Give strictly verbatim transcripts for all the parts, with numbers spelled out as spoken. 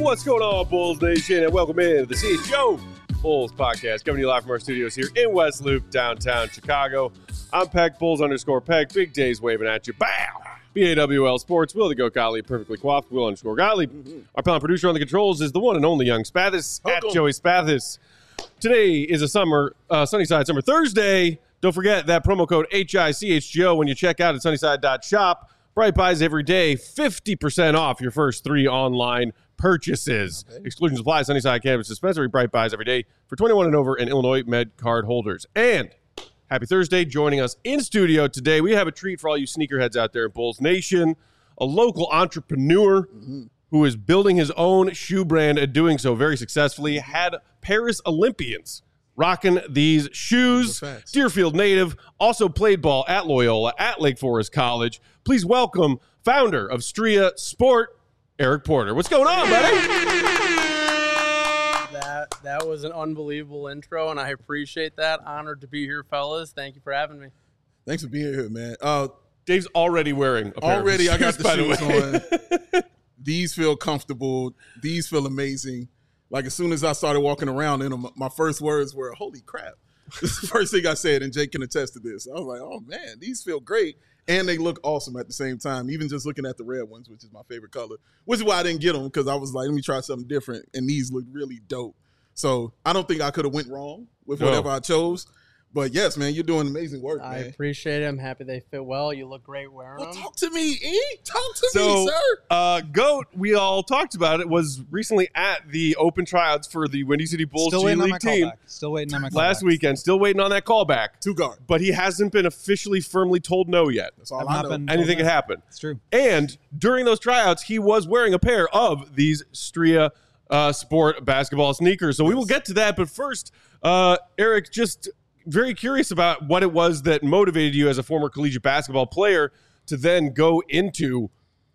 What's going on, Bulls Nation? And welcome in to the C H G O Bulls Podcast, coming to you live from our studios here in West Loop, downtown Chicago. I'm Peg, Bulls underscore Peg. Big Days waving at you. Bow! B A W L Sports. Will the Goat Gottlieb, perfectly coiffed. Will underscore Gottlieb. Mm-hmm. Our panel producer on the controls is the one and only Young Spathis, at Joey Spathis. Today is a summer, uh, Sunnyside Summer Thursday. Don't forget that promo code H I C H G O when you check out at sunnyside dot shop. Bright Buys every day, fifty percent off your first three online purchases. Okay. Exclusions apply. Sunnyside Cannabis Dispensary. Bright Buys every day for twenty-one and over and Illinois Med card holders. And happy Thursday. Joining us in studio today, we have a treat for all you sneakerheads out there in Bulls Nation. A local entrepreneur mm-hmm. who is building his own shoe brand and doing so very successfully. Had Paris Olympians rocking these shoes. Deerfield native, also played ball at Loyola, at Lake Forest College. Please welcome founder of Stria Sport, Eric Porter. What's going on, buddy? That that was an unbelievable intro, and I appreciate that. Honored to be here, fellas. Thank you for having me. Thanks for being here, man. Uh, Dave's already wearing a pair Already, of I got shoes, the shoes on. These feel comfortable. These feel amazing. Like, as soon as I started walking around in them, my first words were, holy crap. This is the first thing I said, and Jake can attest to this. I was like, oh, man, these feel great. And they look awesome at the same time, even just looking at the red ones, which is my favorite color, which is why I didn't get them, because I was like, let me try something different, and these look really dope. So I don't think I could have went wrong with whatever no. I chose. But, yes, man, you're doing amazing work, I man. I appreciate it. I'm happy they fit well. You look great wearing well, them. Talk to me, E. Talk to so, me, sir. Uh, Goat, we all talked about it, was recently at the open tryouts for the Windy City Bulls Still G waiting League on my team. Callback. Still waiting on my callback. Last weekend. Still waiting on that callback. Two guard. But he hasn't been officially firmly told no yet. That's all I've I not know. been Anything could happen. It's true. And during those tryouts, he was wearing a pair of these Stria uh, Sport basketball sneakers. So we will get to that. But first, uh, Eric, just very curious about what it was that motivated you as a former collegiate basketball player to then go into,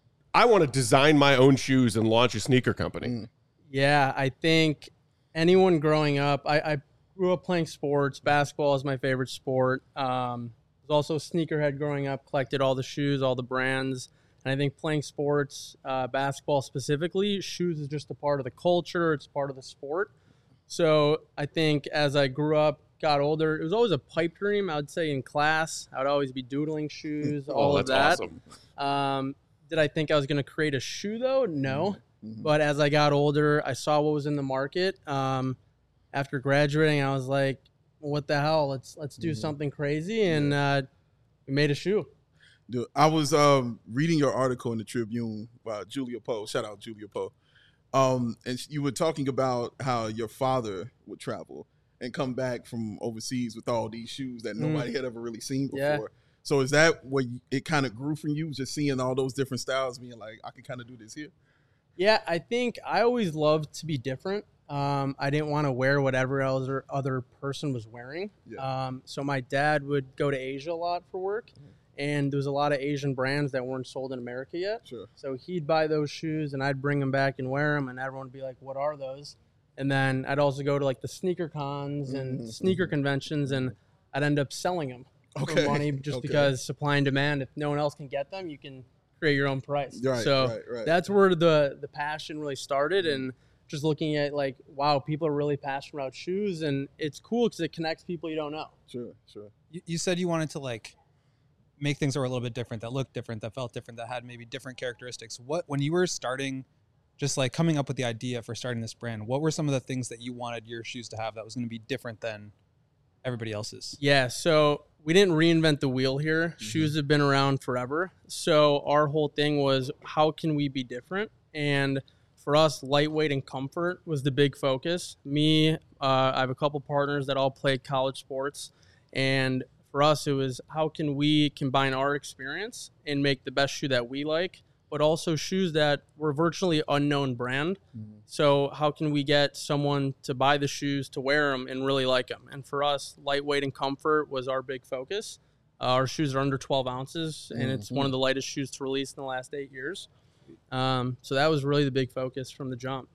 I want to design my own shoes and launch a sneaker company. Yeah, I think anyone growing up, I, I grew up playing sports. Basketball is my favorite sport. Um, was also a sneakerhead growing up, collected all the shoes, all the brands. And I think playing sports, uh, basketball specifically, shoes is just a part of the culture. It's part of the sport. So I think as I grew up, got older, it was always a pipe dream. I would say in class, I would always be doodling shoes, all oh, of that's that. Awesome. Um, did I think I was going to create a shoe though? No. Mm-hmm. But as I got older, I saw what was in the market. Um, after graduating, I was like, well, what the hell? Let's let's do mm-hmm. something crazy, and uh, we made a shoe. Dude, I was um, reading your article in the Tribune by Julia Poe. Shout out Julia Poe. Um, and you were talking about how your father would travel and come back from overseas with all these shoes that nobody mm. had ever really seen before. Yeah. So is that what it kind of grew from you, just seeing all those different styles, being like, I can kind of do this here? Yeah, I think I always loved to be different. Um, I didn't want to wear whatever other other person was wearing. Yeah. Um, so my dad would go to Asia a lot for work, mm. and there was a lot of Asian brands that weren't sold in America yet. Sure. So he'd buy those shoes, and I'd bring them back and wear them, and everyone would be like, what are those? And then I'd also go to like the sneaker cons and mm-hmm. sneaker conventions, and I'd end up selling them okay. for money just okay. because supply and demand. If no one else can get them, you can create your own price. Right, so right, right. that's where the the passion really started, and just looking at like, wow, people are really passionate about shoes, and it's cool because it connects people you don't know. Sure, sure. You, you said you wanted to like make things that were a little bit different, that looked different, that felt different, that had maybe different characteristics. What when you were starting? Just like coming up with the idea for starting this brand, what were some of the things that you wanted your shoes to have that was going to be different than everybody else's? Yeah, so we didn't reinvent the wheel here. Mm-hmm. Shoes have been around forever. So our whole thing was, how can we be different? And for us, lightweight and comfort was the big focus. Me, uh, I have a couple partners that all play college sports. And for us, it was, how can we combine our experience and make the best shoe that we like, but also shoes that were virtually unknown brand. Mm-hmm. So how can we get someone to buy the shoes, to wear them, and really like them? And for us, lightweight and comfort was our big focus. Uh, our shoes are under twelve ounces, and mm-hmm. it's one of the lightest shoes to release in the last eight years. Um, so that was really the big focus from the jump.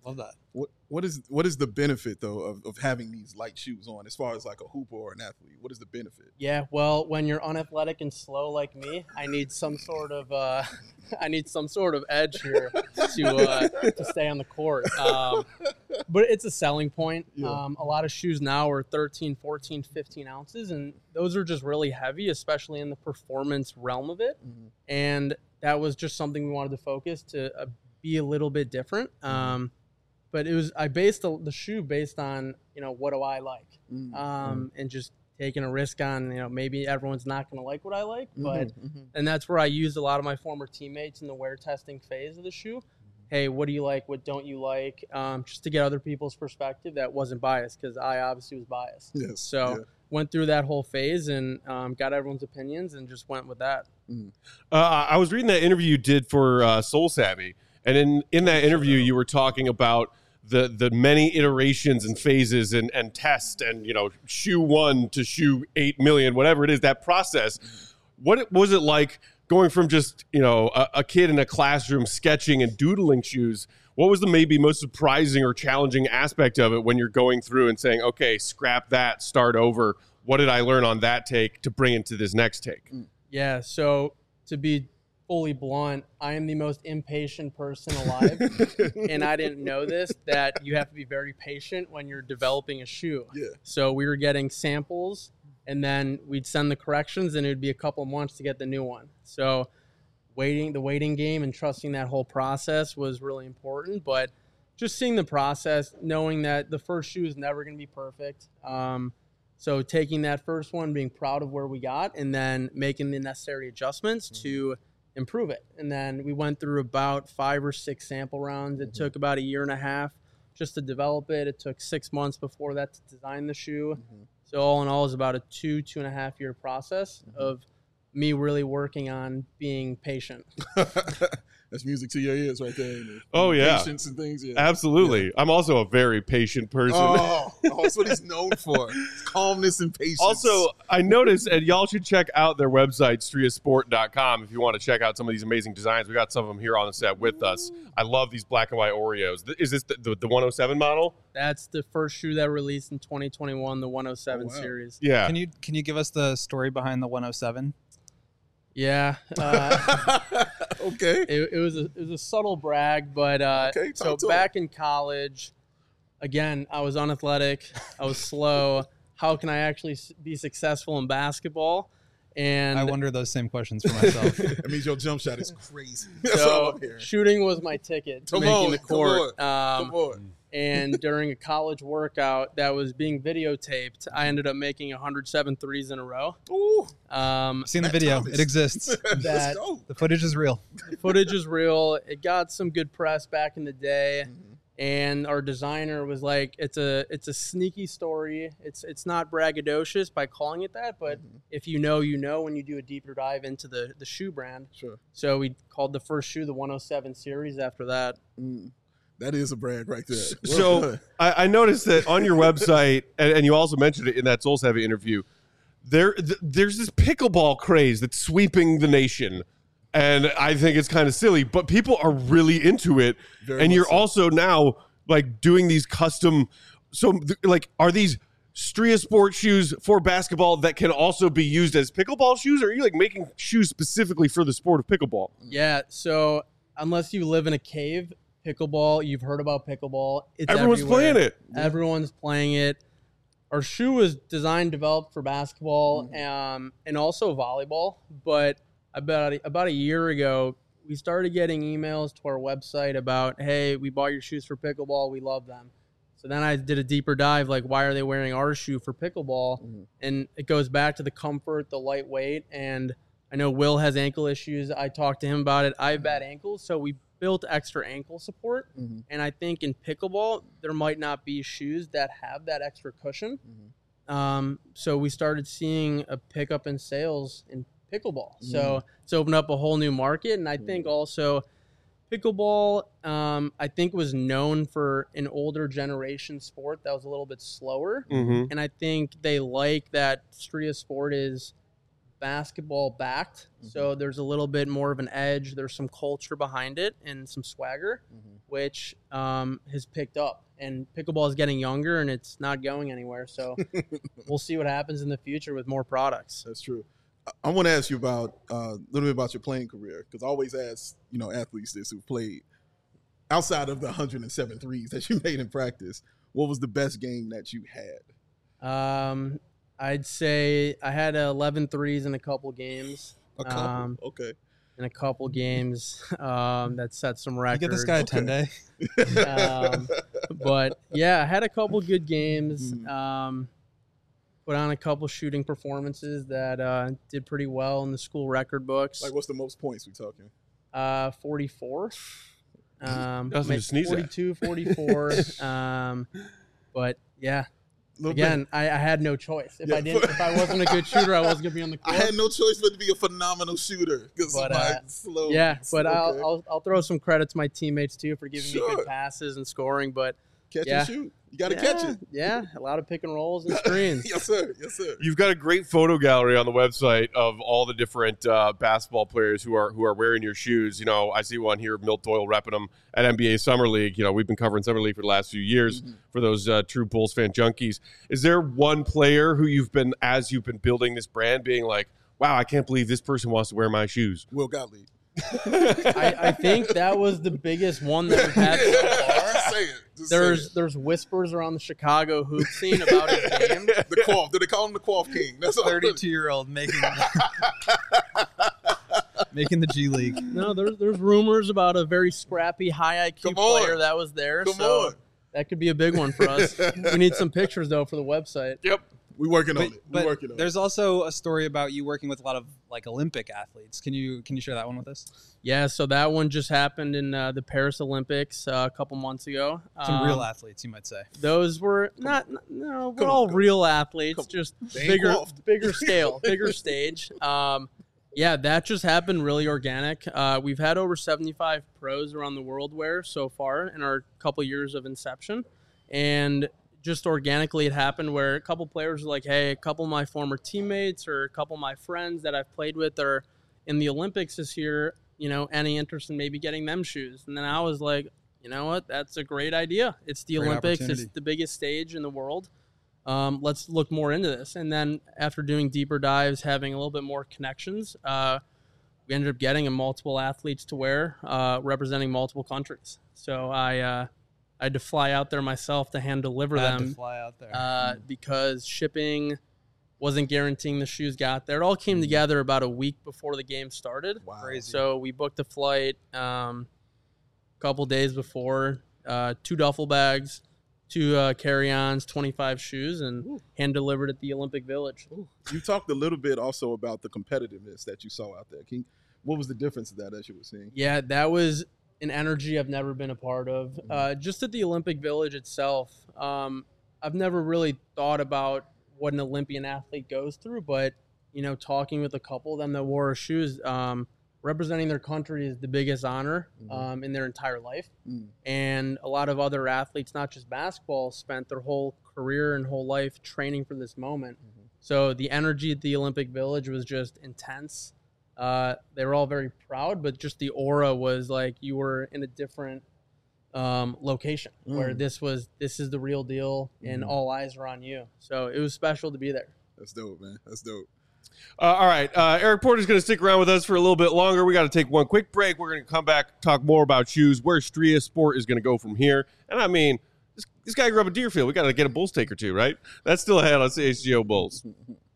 Love that. What what is what is the benefit though of, of having these light shoes on as far as like a hooper or an athlete? What is the benefit? Yeah, well, when you're unathletic and slow like me, I need some sort of uh, I need some sort of edge here to uh, to stay on the court. Um, but it's a selling point. Yeah. Um, a lot of shoes now are thirteen, fourteen, fifteen ounces, and those are just really heavy, especially in the performance realm of it. Mhm. And that was just something we wanted to focus to uh, be a little bit different. Um, but it was I based the, the shoe based on, you know, what do I like, Mm-hmm. um, and just taking a risk on, you know, maybe everyone's not going to like what I like, but Mm-hmm. and that's where I used a lot of my former teammates in the wear testing phase of the shoe. Hey, what do you like? What don't you like? Um, just to get other people's perspective that wasn't biased, because I obviously was biased. Yes. So yeah. went through that whole phase and um, got everyone's opinions and just went with that. Uh, I was reading that interview you did for uh, Soul Savvy, and in, in that interview, you were talking about the the many iterations and phases and, and tests and, you know, shoe one to shoe eight million, whatever it is, that process. What it- was it like going from just, you know, a, a kid in a classroom sketching and doodling shoes? What was the maybe most surprising or challenging aspect of it when you're going through and saying, okay, scrap that, start over. What did I learn on that take to bring into this next take? Yeah, so to be fully blunt, I am the most impatient person alive. And I didn't know this, that you have to be very patient when you're developing a shoe. Yeah. So we were getting samples, and then we'd send the corrections, and it would be a couple months to get the new one. So waiting, the waiting game and trusting that whole process was really important. But just seeing the process, knowing that the first shoe is never going to be perfect. Um, so taking that first one, being proud of where we got, and then making the necessary adjustments mm-hmm. to improve it. And then we went through about five or six sample rounds. It mm-hmm. took about a year and a half just to develop it. It took six months before that to design the shoe. Mm-hmm. So all in all, it was about a two, two and a half year process mm-hmm. of me really working on being patient. That's music to your ears right there. Oh, yeah. Patience and things. Yeah. Absolutely. Yeah. I'm also a very patient person. Oh, oh, that's what he's known for. Calmness and patience. Also, I noticed, and y'all should check out their website, stria sport dot com, if you want to check out some of these amazing designs. We got some of them here on the set with us. I love these black and white Oreos. Is this the, the, the one oh seven model? That's the first shoe that released in twenty twenty-one, the one oh seven oh, wow. series. Yeah. Can you can you give us the story behind the one oh seven? Yeah. Uh, okay. It, it was a it was a subtle brag, but uh, okay, so back in college, again, I was unathletic, I was slow. How can I actually be successful in basketball? And I wonder those same questions for myself. That means your jump shot is crazy. That's so all I'm hearing. Shooting was my ticket to come making on, the court. Come on. Um, come on. And during a college workout that was being videotaped, I ended up making one hundred seven threes in a row. Ooh. Um, I've seen the Matt video. Thomas. It exists. That- Let's go. The footage is real. The footage is real. It got some good press back in the day. Mm-hmm. And our designer was like, it's a it's a sneaky story. It's it's not braggadocious by calling it that, but Mhm. if you know, you know when you do a deeper dive into the, the shoe brand. Sure. So we called the first shoe the one oh seven series after that. Mm. That is a brag right there. So I, I noticed that on your website, and, and you also mentioned it in that Soul Savvy interview, there th- there's this pickleball craze that's sweeping the nation. And I think it's kind of silly, but people are really into it. Very and much you're so. also now like doing these custom. So th- like, are these Stria Sport shoes for basketball that can also be used as pickleball shoes? Or are you like making shoes specifically for the sport of pickleball? Yeah. So unless you live in a cave, pickleball, you've heard about pickleball. It's Everyone's everywhere. playing it. Everyone's playing it. Our shoe was designed, developed for basketball Mm-hmm. um, and also volleyball. But about a, about a year ago, we started getting emails to our website about, hey, we bought your shoes for pickleball. We love them. So then I did a deeper dive, like, why are they wearing our shoe for pickleball? Mm-hmm. And it goes back to the comfort, the lightweight. And I know Will has ankle issues. I talked to him about it. I have bad ankles, so we built extra ankle support. Mhm. And I think in pickleball, there might not be shoes that have that extra cushion. Um, so we started seeing a pickup in sales in pickleball. So it's opened up a whole new market. And I think also pickleball, um, I think was known for an older generation sport that was a little bit slower. Mm-hmm. And I think they like that Stria Sport is basketball backed, mm-hmm. so there's a little bit more of an edge. There's some culture behind it and some swagger, mm-hmm. which um, has picked up. And pickleball is getting younger, and it's not going anywhere. So we'll see what happens in the future with more products. That's true. I, I want to ask you about uh, a little bit about your playing career, because I always ask, you know, athletes this who've played outside of the one hundred seven threes that you made in practice. What was the best game that you had? Um, I'd say I had eleven threes in a couple games. A couple, um, okay. In a couple games, um, that set some records. You get this guy a ten day. um, but yeah, I had a couple good games. Um, put on a couple shooting performances that uh, did pretty well in the school record books. Like, what's the most points we talking? Uh, forty-four. Um, Nothing to sneeze at. forty-two, forty-four. um, but yeah. Again, bit. I, I had no choice. If Yeah, I didn't, if I wasn't a good shooter, I wasn't gonna be on the court. I had no choice but to be a phenomenal shooter. But, uh, slow, yeah, but okay. I'll, I'll I'll throw some credit to my teammates too for giving Sure. me good passes and scoring. But catch yeah. and shoot. You got to yeah, catch it. Yeah, a lot of pick and rolls and screens. Yes, sir. Yes, sir. You've got a great photo gallery on the website of all the different uh, basketball players who are who are wearing your shoes. You know, I see one here, Milt Doyle repping them at N B A Summer League. You know, we've been covering Summer League for the last few years mm-hmm. for those uh, true Bulls fan junkies. Is there one player who you've been, as you've been building this brand, being like, wow, I can't believe this person wants to wear my shoes? Will Gottlieb. I, I think that was the biggest one that we've had so far. Just say it. Just There's say it. there's whispers around the Chicago hoop scene about his game. The Quaff. Do they call him the Quaff King? That's all. thirty-two-year-old making making the G League. No, there's there's rumors about a very scrappy, high I Q Come on. player that was there. Come so on. that could be a big one for us. We need some pictures though for the website. Yep. We working on But, it. We but working on there's it. also a story about you working with a lot of like Olympic athletes. Can you can you share that one with us? Yeah, so that one just happened in uh, the Paris Olympics uh, a couple months ago. Some Um, real athletes, you might say. Those were not, no, we're Come on, all come real athletes, Come just They ain't bigger, quaffed. bigger scale, bigger stage. Um, yeah, that just happened really organic. Uh, we've had over seventy-five pros around the world wear so far in our couple years of inception, and just organically it happened where a couple players were like, hey, a couple of my former teammates or a couple of my friends that I've played with are in the Olympics this year, you know, any interest in maybe getting them shoes? And then I was like, you know what, that's a great idea. It's the Great Olympics. It's opportunity. the biggest stage in the world. Um, let's look more into this. And then after doing deeper dives, having a little bit more connections, uh, we ended up getting a multiple athletes to wear, uh, representing multiple countries. So I, uh, I had to fly out there myself to hand deliver Had them to fly out there. uh, because shipping wasn't guaranteeing the shoes got there. It all came together about a week before the game started. Wow. Crazy. So we booked a flight um, a couple days before, uh, two duffel bags, two uh, carry-ons, twenty-five shoes, and Ooh. hand delivered at the Olympic Village. Ooh. You talked a little bit also about the competitiveness that you saw out there. Can you, what was the difference of that as you were seeing? Yeah, that was an energy I've never been a part of. Uh, just at the Olympic Village itself, um, I've never really thought about what an Olympian athlete goes through, but, you know, talking with a couple of them that wore our shoes, um, representing their country is the biggest honor um, in their entire life. Mm. And a lot of other athletes, not just basketball, spent their whole career and whole life training for this moment. Mm-hmm. So the energy at the Olympic Village was just intense. Uh, they were all very proud, but just the aura was like you were in a different um, location Mm. where this was this is the real deal and Mhm. all eyes are on you. So it was special to be there. That's dope, man. That's dope. Uh, all right. Uh, Eric Porter's going to stick around with us for a little bit longer. We got to take one quick break. We're going to come back, talk more about shoes, where Stria Sport is going to go from here. And I mean, this, this guy grew up in Deerfield. We got to get a Bulls take or two, right? That's still ahead on C H G O Bulls.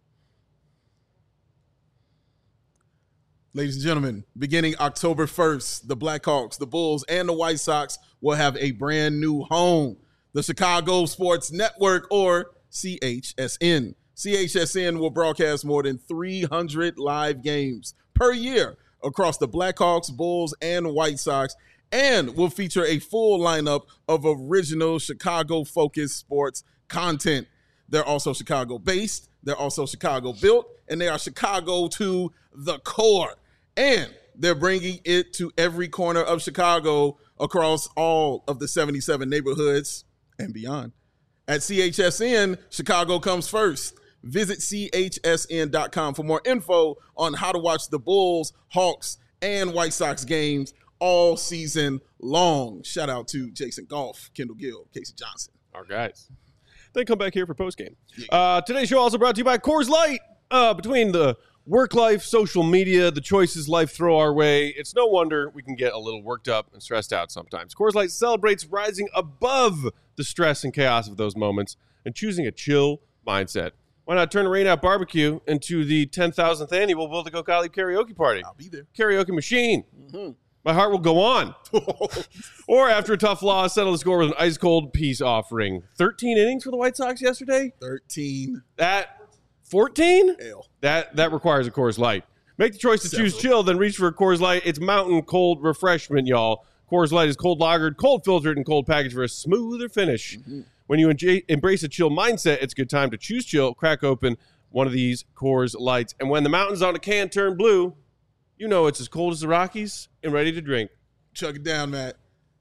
Ladies and gentlemen, beginning October first, the Blackhawks, the Bulls, and the White Sox will have a brand new home, the Chicago Sports Network, or C H S N. C H S N will broadcast more than three hundred live games per year across the Blackhawks, Bulls, and White Sox, and will feature a full lineup of original Chicago-focused sports content. They're also Chicago-based, they're also Chicago-built, and they are Chicago to the core. And they're bringing it to every corner of Chicago across all of the seventy-seven neighborhoods and beyond. At C H S N, Chicago comes first. Visit C H S N dot com for more info on how to watch the Bulls, Hawks, and White Sox games all season long. Shout out to Jason Goff, Kendall Gill, Casey Johnson. Our guys. Then come back here for postgame. Uh, today's show also brought to you by Coors Light. Uh, between the work life, social media, the choices life throw our way, it's no wonder we can get a little worked up and stressed out sometimes. Coors Light celebrates rising above the stress and chaos of those moments and choosing a chill mindset. Why not turn a Rain Out Barbecue into the ten thousandth annual Build to Go Gottlieb karaoke party? I'll be there. Karaoke machine. Mm-hmm. My heart will go on. Or after a tough loss, settle the score with an ice-cold peace offering. thirteen innings for the White Sox yesterday? thirteen. That fourteen? L. That that requires a Coors Light. Make the choice to Several. choose chill, then reach for a Coors Light. It's mountain cold refreshment, y'all. Coors Light is cold lagered, cold filtered, and cold packaged for a smoother finish. Mm-hmm. When you enja- embrace a chill mindset, it's a good time to choose chill. Crack open one of these Coors Lights. And when the mountains on a can turn blue, you know it's as cold as the Rockies and ready to drink. Chuck it down, Matt.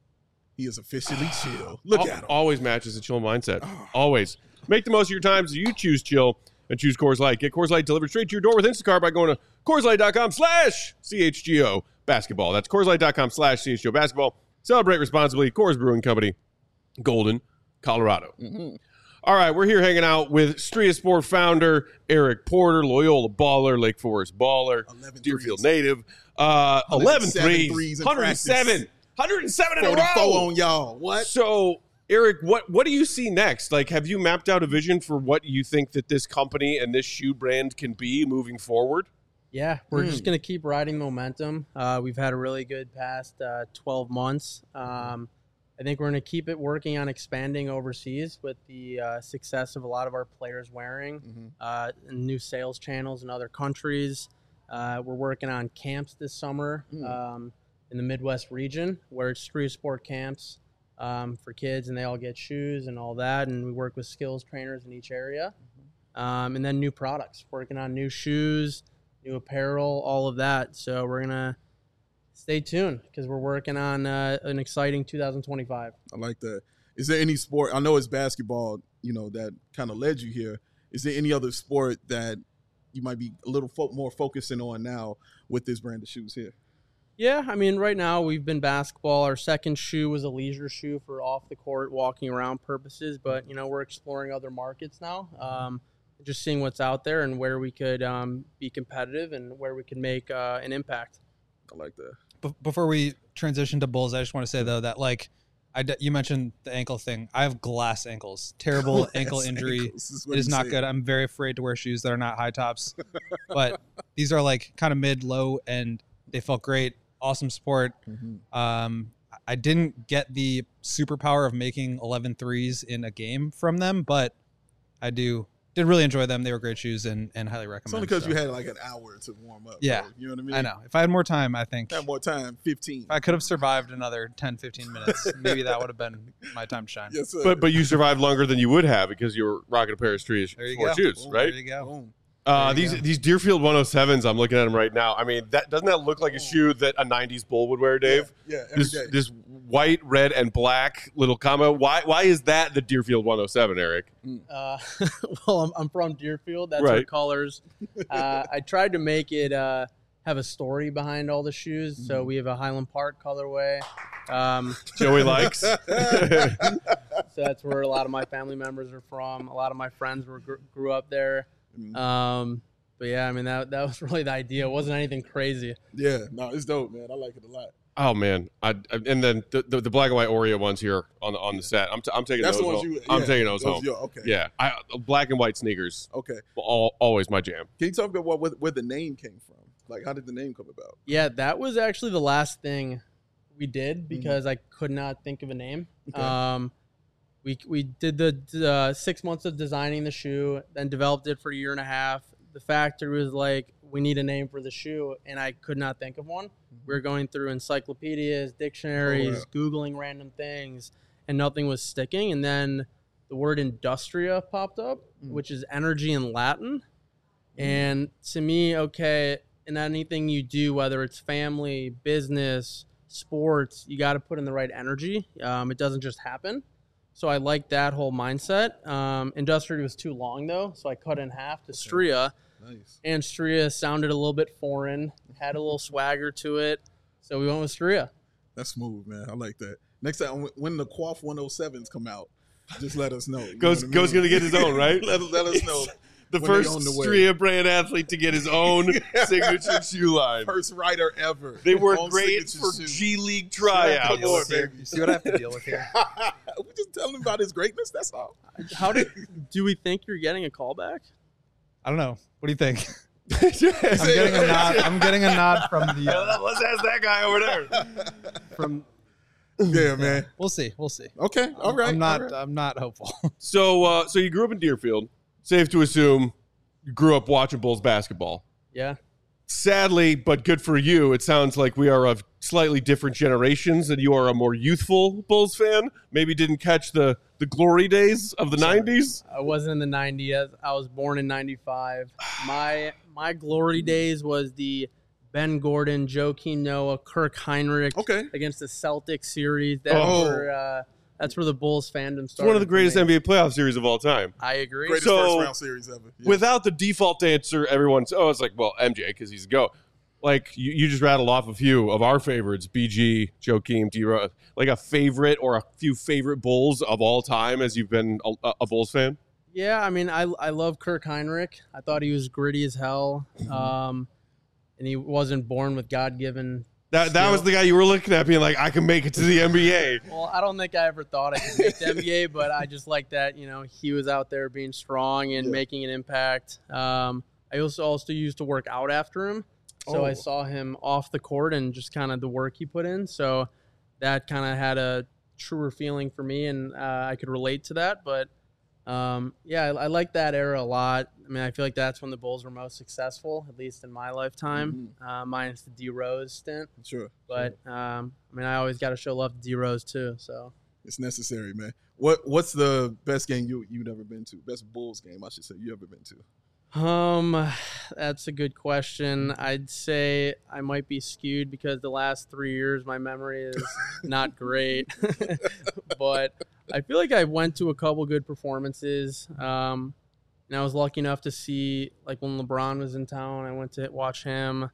He is officially chill. Look Al- at him. Always matches a chill mindset. Always. Make the most of your time so you choose chill and choose Coors Light. Get Coors Light delivered straight to your door with Instacart by going to CoorsLight.com slash CHGO basketball. That's CoorsLight.com slash CHGO basketball. Celebrate responsibly. Coors Brewing Company, Golden, Colorado. Mm-hmm. All right, we're here hanging out with Street of Sport founder Eric Porter, Loyola baller, Lake Forest baller, Deerfield threes. native. Uh, eleven threes, threes in one hundred seven. one hundred seven in a row. forty-four on y'all. What? So, Eric, what, what do you see next? Like, have you mapped out a vision for what you think that this company and this shoe brand can be moving forward? Yeah, we're Hmm. just going to keep riding momentum. Uh, we've had a really good past uh, twelve months. Um, I think we're going to keep it working on expanding overseas with the uh, success of a lot of our players wearing Mm-hmm. uh, new sales channels in other countries. Uh, we're working on camps this summer Mm. um, in the Midwest region where it's street sport camps um, for kids, and they all get shoes and all that. And we work with skills trainers in each area. Um, and then new products, working on new shoes, new apparel, all of that. So we're going to stay tuned because we're working on uh, an exciting two thousand twenty-five. I like that. Is there any sport? I know it's basketball, you know, that kind of led you here. Is there any other sport that you might be a little fo- more focusing on now with this brand of shoes here? Yeah, I mean, right now we've been basketball. Our second shoe was a leisure shoe for off the court, walking around purposes. But, you know, we're exploring other markets now, um, just seeing what's out there and where we could um, be competitive and where we can make uh, an impact. I like that. Be- before we transition to Bulls, I just want to say though that like I d- you mentioned the ankle thing. I have glass ankles, terrible Glass ankle injury. ankles is what It is he not said. good. I'm very afraid to wear shoes that are not high tops, but these are like kind of mid, low, and they felt great. Awesome sport. Mm-hmm. Um, I didn't get the superpower of making eleven threes in a game from them, but I do did really enjoy them. They were great shoes and, and highly recommend. It's only because so. you had like an hour to warm up. Yeah. bro. You know what I mean? I know. If I had more time, I think Had more time, fifteen. if I could have survived another ten, fifteen minutes, maybe that would have been my time to shine. Yes, sir. But but you survived longer than you would have because you were rocking a pair of Street There you Sport go. shoes, Boom, right? There you go. Boom. Uh, There you these go. these Deerfield one oh sevens, I'm looking at them right now. I mean, that doesn't that look like a shoe that a nineties Bull would wear, Dave? Yeah, yeah, every this day. this white, red, and black little combo. Why why is that the Deerfield one oh seven, Eric? Uh, well, I'm, I'm from Deerfield. That's our Right. colors. Uh, I tried to make it uh, have a story behind all the shoes. So we have a Highland Park colorway. Um, Joey likes. so that's where a lot of my family members are from. A lot of my friends were gr- grew up there. Um, but yeah, I mean that that was really the idea. It wasn't anything crazy. Yeah, no, it's dope, man. I like it a lot. Oh man, I, I and then the, the the black and white Oreo ones here on the on the set. I'm t- I'm taking That's those. the ones home. you. I'm yeah, taking those home. your- okay. Yeah, I black and white sneakers. Okay. All, always my jam. Can you talk about what, where, where the name came from? Like, how did the name come about? Yeah, that was actually the last thing we did because I could not think of a name. Okay. Um, we we did the uh, six months of designing the shoe, then developed it for a year and a half. The factory was like, we need a name for the shoe, and I could not think of one. We were going through encyclopedias, dictionaries, Oh, Googling random things, and nothing was sticking. And then the word industria popped up, Mm. which is energy in Latin. And to me, okay, in anything you do, whether it's family, business, sports, you got to put in the right energy. Um, it doesn't just happen. So I liked that whole mindset. Um, Industrial was too long, though, so I cut in half to Stria. Nice. And Stria sounded a little bit foreign, had a little swagger to it. So we went with Stria. That's smooth, man. I like that. Next time, when the Quaff one oh sevens come out, just let us know. Goes know Goes I mean? going to get his own, right? let, let us know. The when they first on the way. Stria brand athlete to get his own signature shoe line. First rider ever. They were Own great signature for shoe. G League tryouts. Come on, Here. baby. You see what I have to deal with here? We're just telling him about his greatness. That's all. How do do we think you're getting a callback? I don't know. What do you think? I'm getting a nod. I'm getting a nod from the. Uh, Let's ask that guy over there. from. Yeah, man. We'll see. We'll see. Okay. All right. I'm not. all right. I'm not hopeful. So, uh, so you grew up in Deerfield. Safe to assume you grew up watching Bulls basketball. Yeah. Sadly, but good for you, it sounds like we are of slightly different generations, and you are a more youthful Bulls fan. Maybe didn't catch the, the glory days of the nineties. I wasn't in the nineties. I was born in ninety-five. My my glory days was the Ben Gordon, Joakim Noah, Kirk Heinrich Okay. against the Celtics series. That Oh. were, uh, that's where the Bulls fandom It's started. one of the for greatest me. N B A playoff series of all time. I agree. Greatest So- first round series ever. Yeah. Without the default answer, everyone's, oh, it's like, well, M J, because he's a GOAT. Like, you, you just rattled off a few of our favorites, B G, Joakim, D-Rose. Like a favorite or a few favorite Bulls of all time as you've been a, a Bulls fan? Yeah, I mean, I I love Kirk Heinrich. I thought he was gritty as hell, um, and he wasn't born with God-given. That that was the guy you were looking at being like, I can make it to the N B A. Well, I don't think I ever thought I could make the N B A, but I just like that, you know, he was out there being strong and Yeah. making an impact. Um, I also also used to work out after him, so Oh. I saw him off the court and just kind of the work he put in. So that kind of had a truer feeling for me, and uh, I could relate to that. But um, yeah, I, I like that era a lot. I mean, I feel like that's when the Bulls were most successful, at least in my lifetime, uh, minus the D Rose stint. Sure. But um, I mean, I always got to show love to D Rose too. So. It's necessary, man. What What's the best game you you've ever been to? Best Bulls game, I should say, you ever been to? Um, that's a good question. I'd say I might be skewed because the last three years my memory is not great, but I feel like I went to a couple good performances. Um, and I was lucky enough to see, like when LeBron was in town, I went to watch him.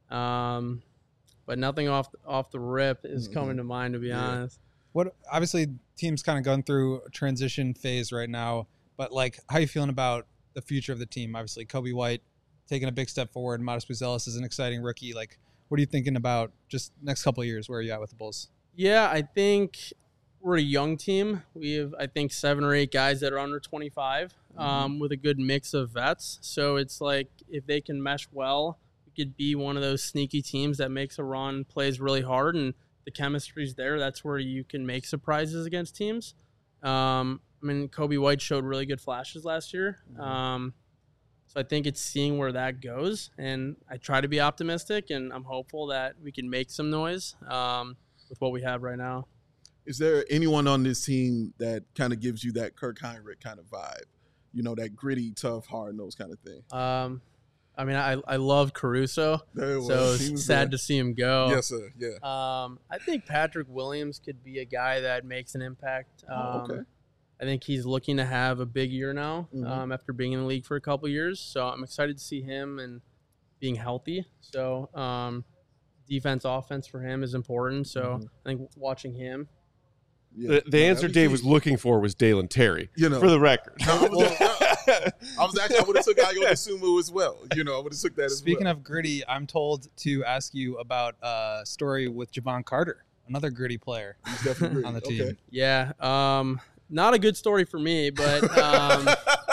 Um, but nothing off off the rip is Mhm. coming to mind, to be Yeah. honest. What obviously team's kind of going through a transition phase right now, but like how you feeling about the future of the team? Obviously, Kobe White taking a big step forward. Modest Buzelis is an exciting rookie. Like, what are you thinking about just next couple of years? Where are you at with the Bulls? Yeah, I think we're a young team. We have, I think, seven or eight guys that are under twenty-five, um, with a good mix of vets. So it's like if they can mesh well, we could be one of those sneaky teams that makes a run, plays really hard, and the chemistry's there. That's where you can make surprises against teams. Um, I mean, Kobe White showed really good flashes last year. Um, so I think it's seeing where that goes. And I try to be optimistic, and I'm hopeful that we can make some noise um, with what we have right now. Is there anyone on this team that kind of gives you that Kirk Heinrich kind of vibe? You know, that gritty, tough, hard-nosed kind of thing. Um, I mean, I, I love Caruso, There it so was. He it's was sad there. to see him go. Yes, sir. Yeah. Um, I think Patrick Williams could be a guy that makes an impact. Um, Oh, okay. I think he's looking to have a big year now Mhm. um, after being in the league for a couple years. So I'm excited to see him and being healthy. So um, defense, offense for him is important. So Mhm. I think watching him. Yeah. The, the No, answer that'd be Dave key. was looking for was Dalen Terry, You know. for the record. No, I was, I was actually I would have took Ayo Dosunmu as well. You know, I would have took that as Speaking well. of gritty, I'm told to ask you about a story with Javon Carter, another gritty player He's definitely on the gritty. team. Okay. Yeah. Um, not a good story for me, but um,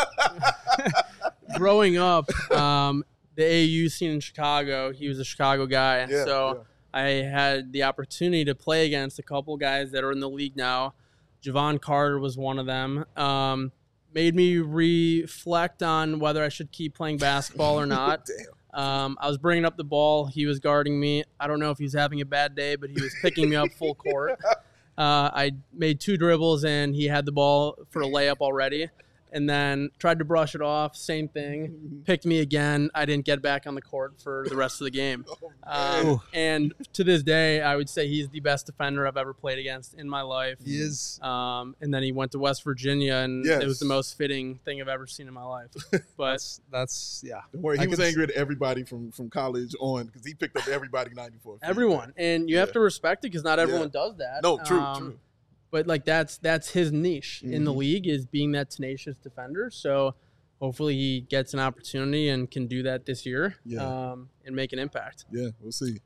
growing up, um, the A A U scene in Chicago, he was a Chicago guy. Yeah, so yeah. I had the opportunity to play against a couple guys that are in the league now. Javon Carter was one of them. Um, made me reflect on whether I should keep playing basketball or not. Damn. Um, I was bringing up the ball. He was guarding me. I don't know if he was having a bad day, but he was picking me up full court. Uh, I made two dribbles, and he had the ball for a layup already. and then tried to brush it off. Same thing. Picked me again. I didn't get back on the court for the rest of the game. Um, and to this day, I would say he's the best defender I've ever played against in my life. He is. Um, and then he went to West Virginia, and Yes. it was the most fitting thing I've ever seen in my life. But That's, that's yeah. Don't worry, he I was could angry at everybody from, from college on because he picked up everybody ninety-four. everyone, and you have Yeah. to respect it because not everyone Yeah. does that. No, true, Um, true. But like that's that's his niche in the Mhm. league, is being that tenacious defender. So hopefully he gets an opportunity and can do that this year, Yeah. um, and make an impact. Yeah, we'll see.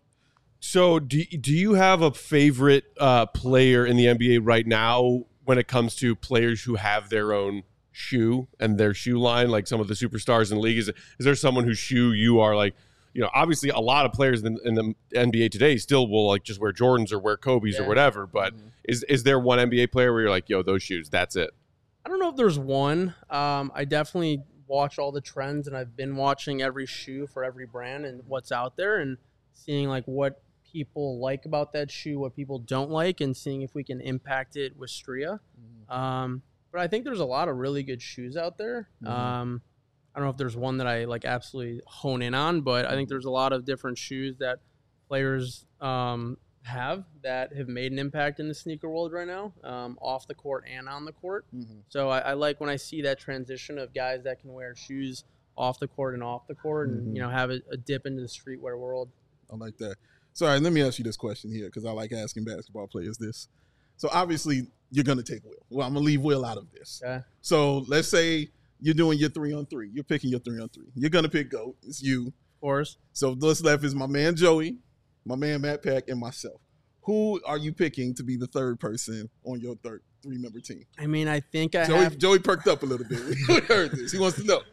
So, do do you have a favorite uh, player in the N B A right now when it comes to players who have their own shoe and their shoe line, like some of the superstars in the league? Is, is there someone whose shoe you are like, you know, obviously a lot of players in, in the N B A today still will like just wear Jordans or wear Kobe's Yeah. or whatever. But Mhm. is is there one N B A player where you're like, yo, those shoes, that's it? I don't know if there's one. Um, I definitely watch all the trends, and I've been watching every shoe for every brand and what's out there, and seeing like what people like about that shoe, what people don't like, and seeing if we can impact it with Stria. Um, but I think there's a lot of really good shoes out there. Mhm. Um, I don't know if there's one that I like absolutely hone in on, but I think there's a lot of different shoes that players um, have that have made an impact in the sneaker world right now, um, off the court and on the court. Mhm. So I, I like when I see that transition of guys that can wear shoes off the court and off the court, and Mhm. you know have a, a dip into the streetwear world. I like that. So, all right, let me ask you this question here because I like asking basketball players this. So, obviously, you're going to take Will. Well, I'm going to leave Will out of this. Okay. So, let's say you're doing your three on three. You're picking your three on three. You're going to pick GOAT. It's you. Of course. So, what's left is my man Joey, my man Matt Peck, and myself. Who are you picking to be the third person on your third three-member team? I mean, I think I Joey, have. Joey perked up a little bit. We heard this. He wants to know.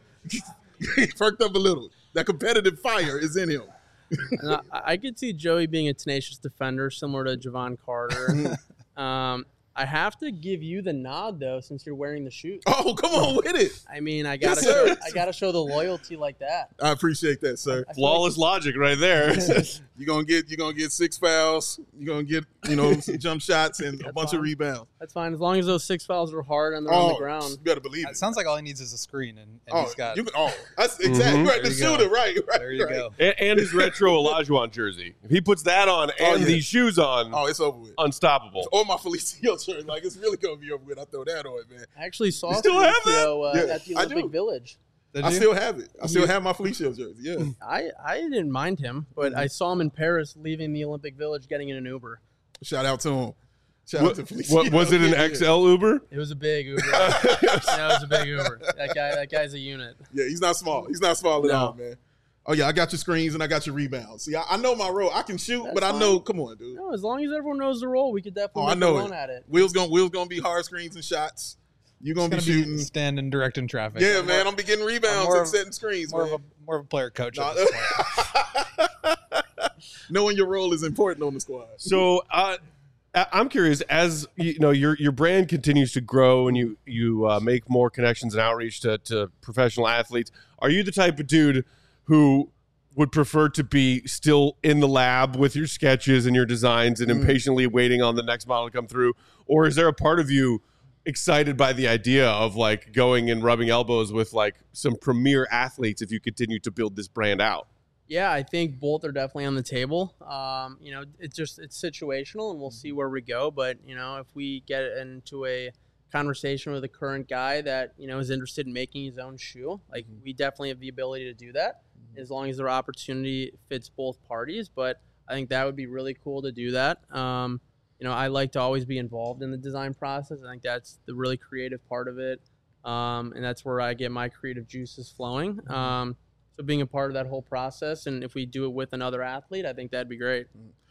He perked up a little. That competitive fire is in him. And I, I could see Joey being a tenacious defender, similar to Javon Carter. um, I have to give you the nod though, since you're wearing the shoes. Oh, come on with it. I mean, I gotta, Yes, sir. show, I gotta show the loyalty like that. I appreciate that, sir. I feel Flawless logic right there. You're gonna get you're gonna get six fouls. You're gonna get, you know, some jump shots and a That's bunch of fine. rebounds. That's fine as long as those six fouls are hard and they're on the ground. You better believe it. It sounds like all he needs is a screen, and, and Oh, he's got. you, oh, that's exactly Mhm. right. The There you go. shooter, right, right. there you right. go. and, and his retro Olajuwon jersey. If he puts that on Oh, and yeah. these shoes on, Oh, it's over with. unstoppable. Or my Felicio shirt, like it's really gonna be over with. I throw that on, man. I actually saw You still have Felicio, uh, that? Yeah, at the I Olympic do. Village. Did I you? still have it. I still You- have my Felicio jersey. Yeah. I, I didn't mind him, but Mm-hmm. I saw him in Paris leaving the Olympic Village getting in an Uber. Shout out to him. Shout What, out to Felicio. what was it? An Yeah, X L Uber? It was a big Uber. yeah, it was a big Uber. That guy, that guy's a unit. Yeah, he's not small. He's not small at No. all, man. Oh yeah, I got your screens and I got your rebounds. See, I, I know my role. I can shoot, That's but I fine. know. Come on, dude. No, as long as everyone knows the role, we could definitely Oh, I make know a run it. at it. Will's gonna Will's gonna be hard screens and shots. You gonna be He's gonna shooting. be standing direct in traffic. Yeah, I'm man. more, I'm be getting rebounds more and of- setting screens, more man. of a more of a player coach. Nah, At this point. knowing your role is important on the squad. So uh, I- I'm curious, as you know, your your brand continues to grow and you you uh, make more connections and outreach to, to professional athletes. Are you the type of dude who would prefer to be still in the lab with your sketches and your designs and Mm. impatiently waiting on the next model to come through, or is there a part of you excited by the idea of like going and rubbing elbows with like some premier athletes if you continue to build this brand out? Yeah, I think both are definitely on the table. Um, you know, it's just it's situational, and we'll see where we go. But you know, if we get into a conversation with a current guy that you know is interested in making his own shoe, like we definitely have the ability to do that, as long as their opportunity fits both parties. But I think that would be really cool to do that. Um, you know, I like to always be involved in the design process. I think that's the really creative part of it, um, and that's where I get my creative juices flowing. Um, So being a part of that whole process, and if we do it with another athlete, I think that'd be great.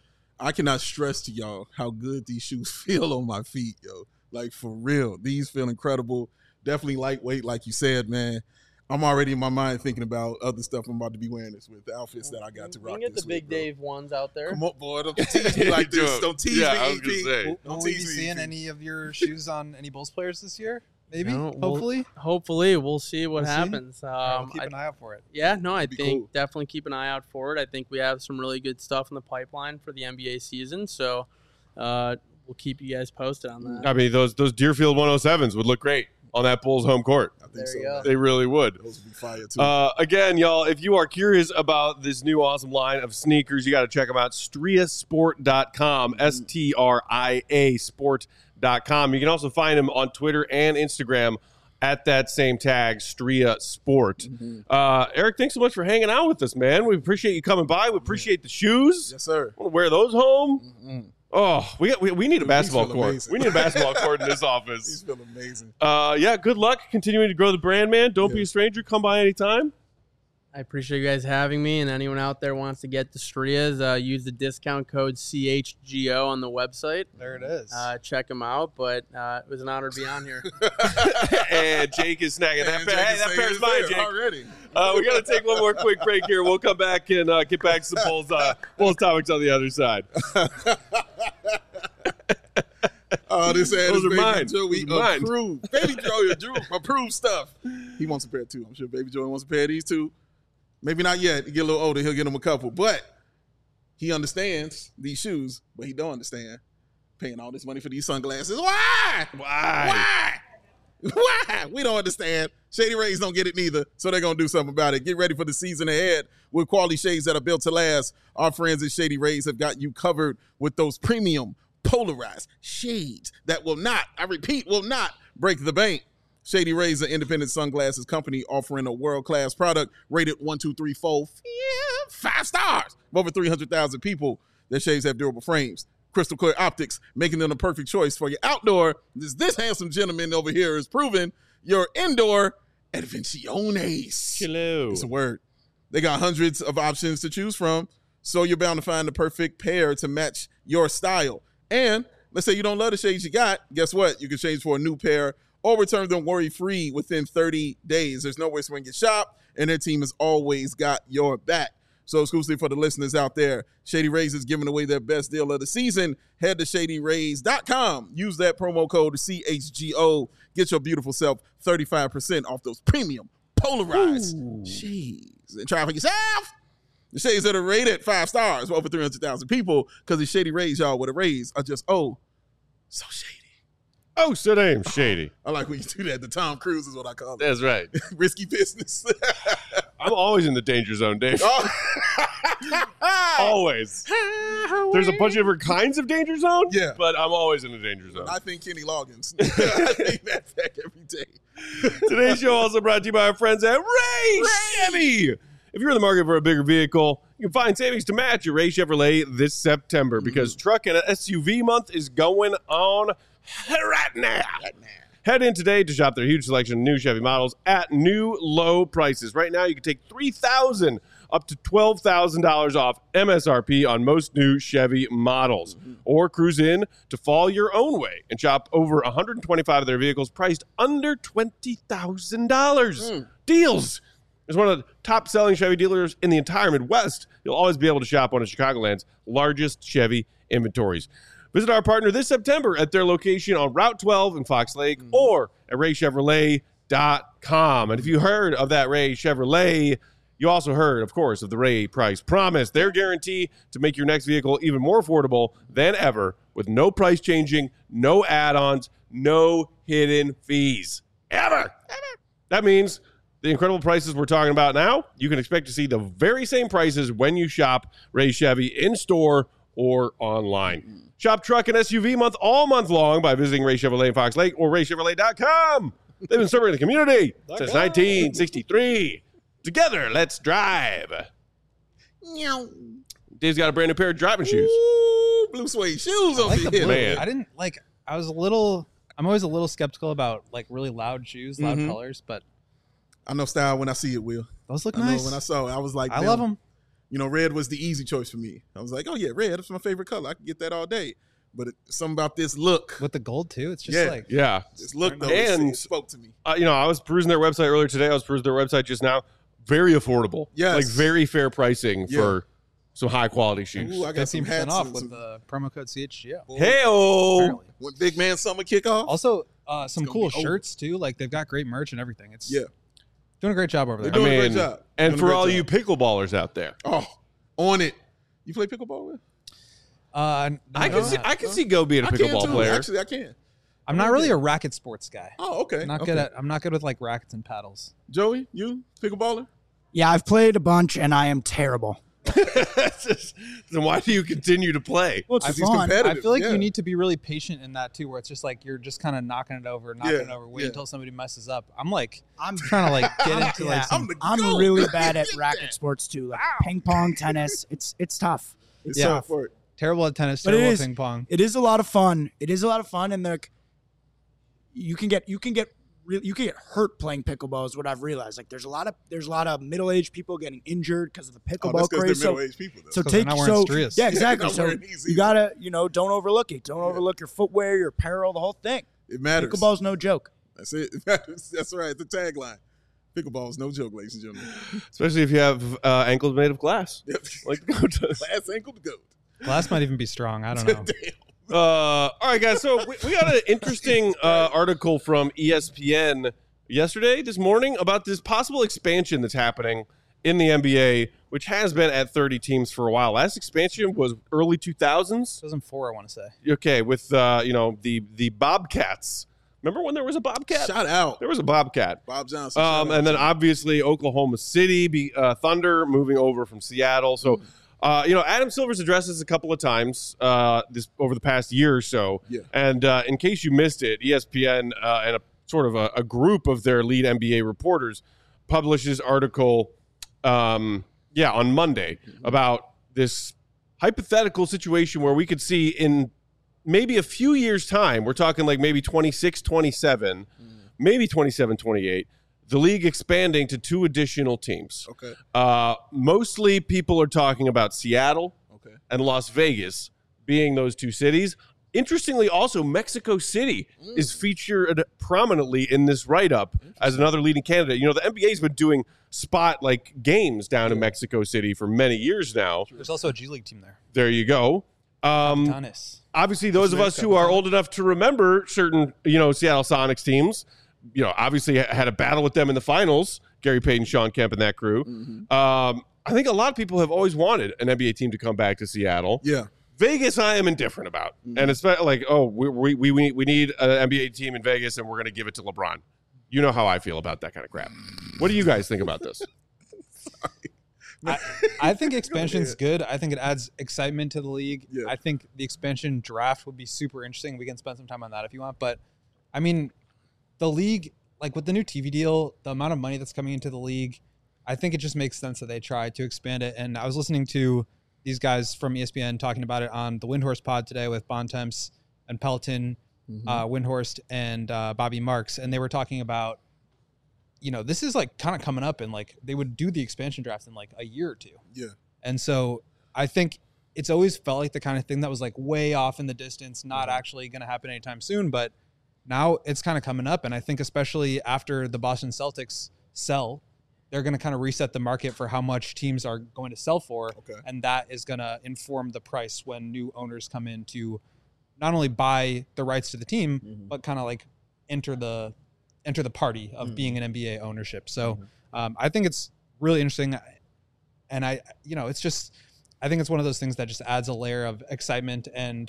I cannot stress to y'all how good these shoes feel on my feet, yo. Like for real, these feel incredible. Definitely lightweight, like you said, man. I'm already in my mind thinking about other stuff I'm about to be wearing this with, the outfits that I got to You rock can get this the Big with, bro. Dave ones out there. Come on, boy. Don't tease me like this. Dude, Don't tease yeah, me, I was E gonna P. say. Don't Will we be tease me, E seeing P. any of your shoes on any Bulls players this year? Maybe, No, we'll- hopefully. Hopefully, we'll see what We'll see. happens. Um, All right, we'll keep I- an eye out for it. yeah, no, I be think cool. definitely keep an eye out for it. I think we have some really good stuff in the pipeline for the N B A season, so uh, we'll keep you guys posted on that. I mean, those those Deerfield one oh sevens would look great on that Bulls home court. I think There so. you go. man. They really would. Those would be fire too. Uh, again, y'all, if you are curious about this new awesome line of sneakers, you got to check them out. Stria Sport dot com, S T R I A Sport dot com. You can also find them on Twitter and Instagram at that same tag, Stria Sport. Mm-hmm. Uh, Eric, thanks so much for hanging out with us, man. We appreciate you coming by. We appreciate the shoes. yes, sir. Want to wear those home? Mm-hmm. Oh, we, we we need a Dude, basketball these feel court. amazing. We need a basketball court in this These office. feel amazing. Uh, yeah, good luck continuing to grow the brand, man. Don't be Yeah. a stranger. Come by anytime. I appreciate you guys having me, and anyone out there wants to get the Strias, uh, use the discount code C H G O on the website. There it is. Uh, check them out, but uh, it was an honor to be on here. And Jake is snagging that And pair. Jake Hey, is that saying pair's it's mine, there Jake. already. Uh, we got to take one more quick break here. We'll come back and uh, get back to some Bulls, uh, Bulls topics on the other side. Oh, this ad Those is are Baby mine. Joey Those are mine. approved. Baby Joey Drew approved stuff. He wants a pair too. I'm sure Baby Joey wants a pair of these too. Maybe not yet. He get a little older, he'll get him a couple. But he understands these shoes, but he don't understand paying all this money for these sunglasses. Why? Why? Why? Why? We don't understand. Shady Rays don't get it neither, so they're going to do something about it. Get ready for the season ahead with quality shades that are built to last. Our friends at Shady Rays have got you covered with those premium polarized shades that will not, I repeat, will not break the bank. Shady Rays, an independent sunglasses company offering a world-class product rated one, two, three, four, yeah, five stars. Of over three hundred thousand people, their shades have durable frames, crystal clear optics, making them the perfect choice for your outdoor. This, this handsome gentleman over here is proven your indoor advenciones. Hello. It's a word. They got hundreds of options to choose from, so you're bound to find the perfect pair to match your style. And let's say you don't love the shades you got, guess what? You can change for a new pair or return them worry-free within thirty days. There's no way to swing your shop, and their team has always got your back. So exclusively for the listeners out there, Shady Rays is giving away their best deal of the season. Head to shady rays dot com. Use that promo code C H G O. Get your beautiful self thirty-five percent off those premium polarized Ooh. shades. And try it for yourself. The shades that are rated five stars for over three hundred thousand people because the Shady Rays, y'all, with the Rays are just, oh, so shady. Oh, so damn shady. I like when you do that. The Tom Cruise is what I call it. That's right. Risky business. I'm always in the danger zone, Dave. Oh. Always. There's a bunch of different kinds of danger zone, yeah, but I'm always in the danger zone. I think Kenny Loggins. I think that back every day. Today's show also brought to you by our friends at Ray, Ray Chevy. If you're in the market for a bigger vehicle, you can find savings to match at Ray Chevrolet this September because mm-hmm. truck and S U V month is going on right now. Right now. Head in today to shop their huge selection of new Chevy models at new low prices. Right now, you can take three thousand dollars up to twelve thousand dollars off M S R P on most new Chevy models. Mm-hmm. Or cruise in to fall your own way and shop over one hundred twenty-five of their vehicles priced under twenty thousand dollars. Mm. Deals! As one of the top-selling Chevy dealers in the entire Midwest, you'll always be able to shop one of Chicagoland's largest Chevy inventories. Visit our partner this September at their location on Route twelve in Fox Lake mm. or at ray chevrolet dot com. And if you heard of that Ray Chevrolet, you also heard, of course, of the Ray Price Promise. Their guarantee to make your next vehicle even more affordable than ever with no price changing, no add-ons, no hidden fees. Ever. Ever. That means the incredible prices we're talking about now, you can expect to see the very same prices when you shop Ray Chevy in-store or online. Shop truck and S U V month all month long by visiting Ray Chevrolet in Fox Lake or ray chevrolet dot com. They've been serving the community since nineteen sixty-three. Together, let's drive. Dave's got a brand new pair of driving shoes. Ooh, blue suede shoes over like the here. blue. Man. I didn't like. I was a little. I'm always a little skeptical about like really loud shoes, loud Mhm. colors, but I know style when I see it, Will. those look I nice. know when I saw it, I was like, I damn. love them. You know, red was the easy choice for me. I was like, oh, yeah, red. That's my favorite color. I can get that all day. But it, something about this look. With the gold, too. It's just Yeah. like. Yeah. This look, though, And- it spoke to me. Uh, you know, I was perusing their website earlier today. I was perusing their website just now. Very affordable. Yes. Like very fair pricing Yeah. for some high quality shoes. Ooh, I got some fifteen percent hats off and with some, the promo code C H G O. Hey-o. Apparently. when Big Man Summer kick off. Also, uh, some gonna cool be over. shirts, too. Like, they've got great merch and everything. It's Yeah. doing a great job over They're there. I doing a mean, great job. and Doing a for great all job. you pickleballers out there, Oh, on it. You play pickleball with? Uh, I no, can see not. I can see Go being a I can pickleball too. player. Actually, I can. I'm not really a racket sports guy. Oh, okay. I'm not okay. good at. I'm not good with like rackets and paddles. Joey, you pickleballer? Yeah, I've played a bunch, and I am terrible. Then why do you continue to play? Well, it's Because he's fun. competitive. I feel like yeah. you need to be really patient in that too, where it's just like you're just kind of knocking it over, knocking Yeah, it over, wait yeah. until somebody messes up. I'm like I'm trying to like get into Yeah, like some. I'm the I'm goat. really bad at racket sports too, like ping pong, tennis. It's it's tough. It's Yeah. tough work. terrible at tennis, But it terrible at is- ping pong. It is a lot of fun. It is a lot of fun, and like you can get you can get re- you can get hurt playing pickleball. Is what I've realized. Like there's a lot of there's a lot of middle aged people getting injured because of the Oh, pickleball that's because craze. they're So, middle-aged people, though. so 'Cause they're take not wearing so strias. yeah exactly. Not So wearing these you either. gotta you know don't overlook it. Don't overlook your footwear, your apparel, the whole thing. it matters. Pickleball's no joke. That's it. It matters. That's right. The tagline. Pickleball is no joke, ladies and gentlemen. Especially if you have uh, ankles made of glass. Yep. Like the goat does. Last ankle to goat. Glass might even be strong. I don't know. Damn. Uh, all right, guys. So we, we got an interesting uh, article from E S P N yesterday, this morning, about this possible expansion that's happening in the N B A, which has been at thirty teams for a while. Last expansion was early two thousands. two thousand four, I want to say. Okay, with uh, you know the the Bobcats. Remember when there was a Bobcat? Shout out. There was a Bobcat. Bob Johnson. Um, shout out and then to you. obviously Oklahoma City, be, uh, Thunder moving over from Seattle. So, uh, you know, Adam Silver's addressed this a couple of times uh, this over the past year or so. Yeah. And uh, in case you missed it, E S P N uh, and a sort of a, a group of their lead N B A reporters publishes article, um, yeah, on Monday about this hypothetical situation where we could see in maybe a few years' time, we're talking like maybe twenty-six, twenty-seven, maybe twenty-seven, twenty-eight, the league expanding to two additional teams. Okay. Uh, mostly people are talking about Seattle Okay. and Las Vegas being those two cities. Interestingly, also, Mexico City is featured prominently in this write-up as another leading candidate. You know, the N B A's been doing spot like games down in Mexico City for many years now. There's also a G League team there. There you go. Um, Giannis. obviously, those of us who are old enough to remember certain, you know, Seattle Sonics teams, you know, obviously had a battle with them in the finals. Gary Payton, Sean Kemp, and that crew. Mm-hmm. Um, I think a lot of people have always wanted an N B A team to come back to Seattle. Yeah. Vegas, I am indifferent about, Mm-hmm. and it's like, oh, we we we we we need an N B A team in Vegas, and we're going to give it to LeBron. You know how I feel about that kind of crap. What do you guys think about this? I, I think expansion's good. I think it adds excitement to the league. Yeah. I think the expansion draft would be super interesting. We can spend some time on that if you want. But I mean, the league, like with the new T V deal, the amount of money that's coming into the league, I think it just makes sense that they try to expand it. And I was listening to these guys from E S P N talking about it on the Windhorst pod today with Bontemps and Pelton, Mm-hmm. uh, Windhorst and uh, Bobby Marks. And they were talking about, you know, this is like kind of coming up, and like they would do the expansion draft in like a year or two. Yeah. And so I think it's always felt like the kind of thing that was like way off in the distance, not actually going to happen anytime soon. But now it's kind of coming up. And I think especially after the Boston Celtics sell, they're going to kind of reset the market for how much teams are going to sell for. Okay. And that is going to inform the price when new owners come in to not only buy the rights to the team, Mm-hmm. but kind of like enter the enter the party of being an N B A ownership. So um, I think it's really interesting. And I, you know, it's just, I think it's one of those things that just adds a layer of excitement and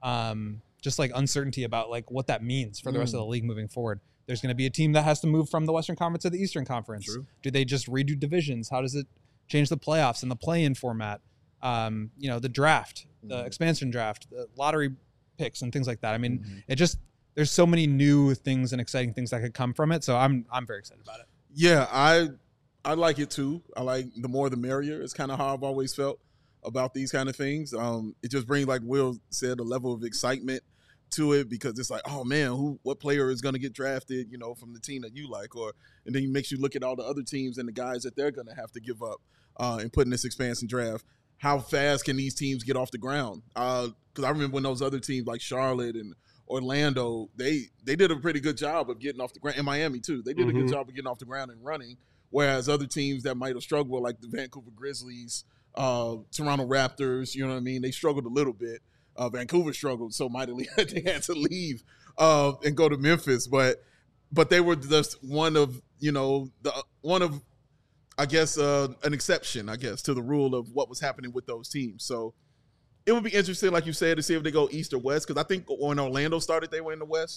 um, just like uncertainty about like what that means for the rest of the league moving forward. There's going to be a team that has to move from the Western Conference to the Eastern Conference. True. Do they just redo divisions? How does it change the playoffs and the play-in format? Um, you know, the draft, the expansion draft, the lottery picks and things like that. I mean, it just, there's so many new things and exciting things that could come from it. So I'm, I'm very excited about it. Yeah, I I like it too. I like the more the merrier. It's kind of how I've always felt about these kind of things. Um, it just brings, like Will said, a level of excitement to it because it's like, oh man, who what player is going to get drafted, you know, from the team that you like, or and then it makes you look at all the other teams and the guys that they're going to have to give up uh, and put in this expansion draft. How fast can these teams get off the ground? Because uh, I remember when those other teams like Charlotte and Orlando, they they did a pretty good job of getting off the ground. And Miami too, they did a good job of getting off the ground and running. Whereas other teams that might have struggled, like the Vancouver Grizzlies, uh, Toronto Raptors, you know what I mean, they struggled a little bit. Uh, Vancouver struggled so mightily that they had to leave uh, and go to Memphis, but but they were just one of you know the one of I guess uh, an exception, I guess, to the rule of what was happening with those teams. So it would be interesting, like you said, to see if they go East or West, because I think when Orlando started, they were in the West,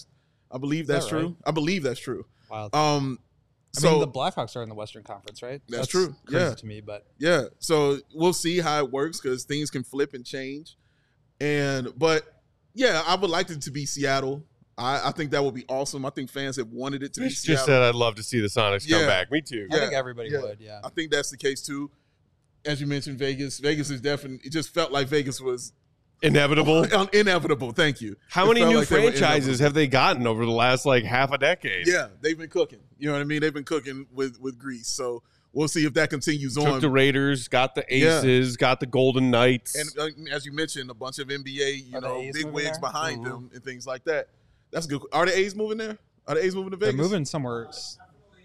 I believe Is that that's true. right? I believe that's true. Wild. Um, I so mean, the Blackhawks are in the Western Conference, right? That's true. Crazy Yeah. to me, but yeah, so we'll see how it works because things can flip and change. And but yeah, I would like it to be Seattle. I, I think that would be awesome. I think fans have wanted it to be Mitch Seattle. just said I'd love to see the Sonics come Yeah. back. Me too. I think Yeah, everybody yeah. would. Yeah. I think that's the case too. As you mentioned, Vegas. Vegas is definitely. It just felt like Vegas was Inevitable. inevitable. Thank you. How It many felt new like they were franchises inevitable. have they gotten over the last like half a decade? Yeah, they've been cooking. You know what I mean? They've been cooking with with Greece. So we'll see if that continues Took on. the Raiders, got the Yeah. Aces, got the Golden Knights. And uh, as you mentioned, a bunch of N B A, you Are the know, A's big moving wigs there? behind Mhm. them and things like that. That's good. Are the A's moving there? Are the A's moving to They're Vegas? moving somewhere s-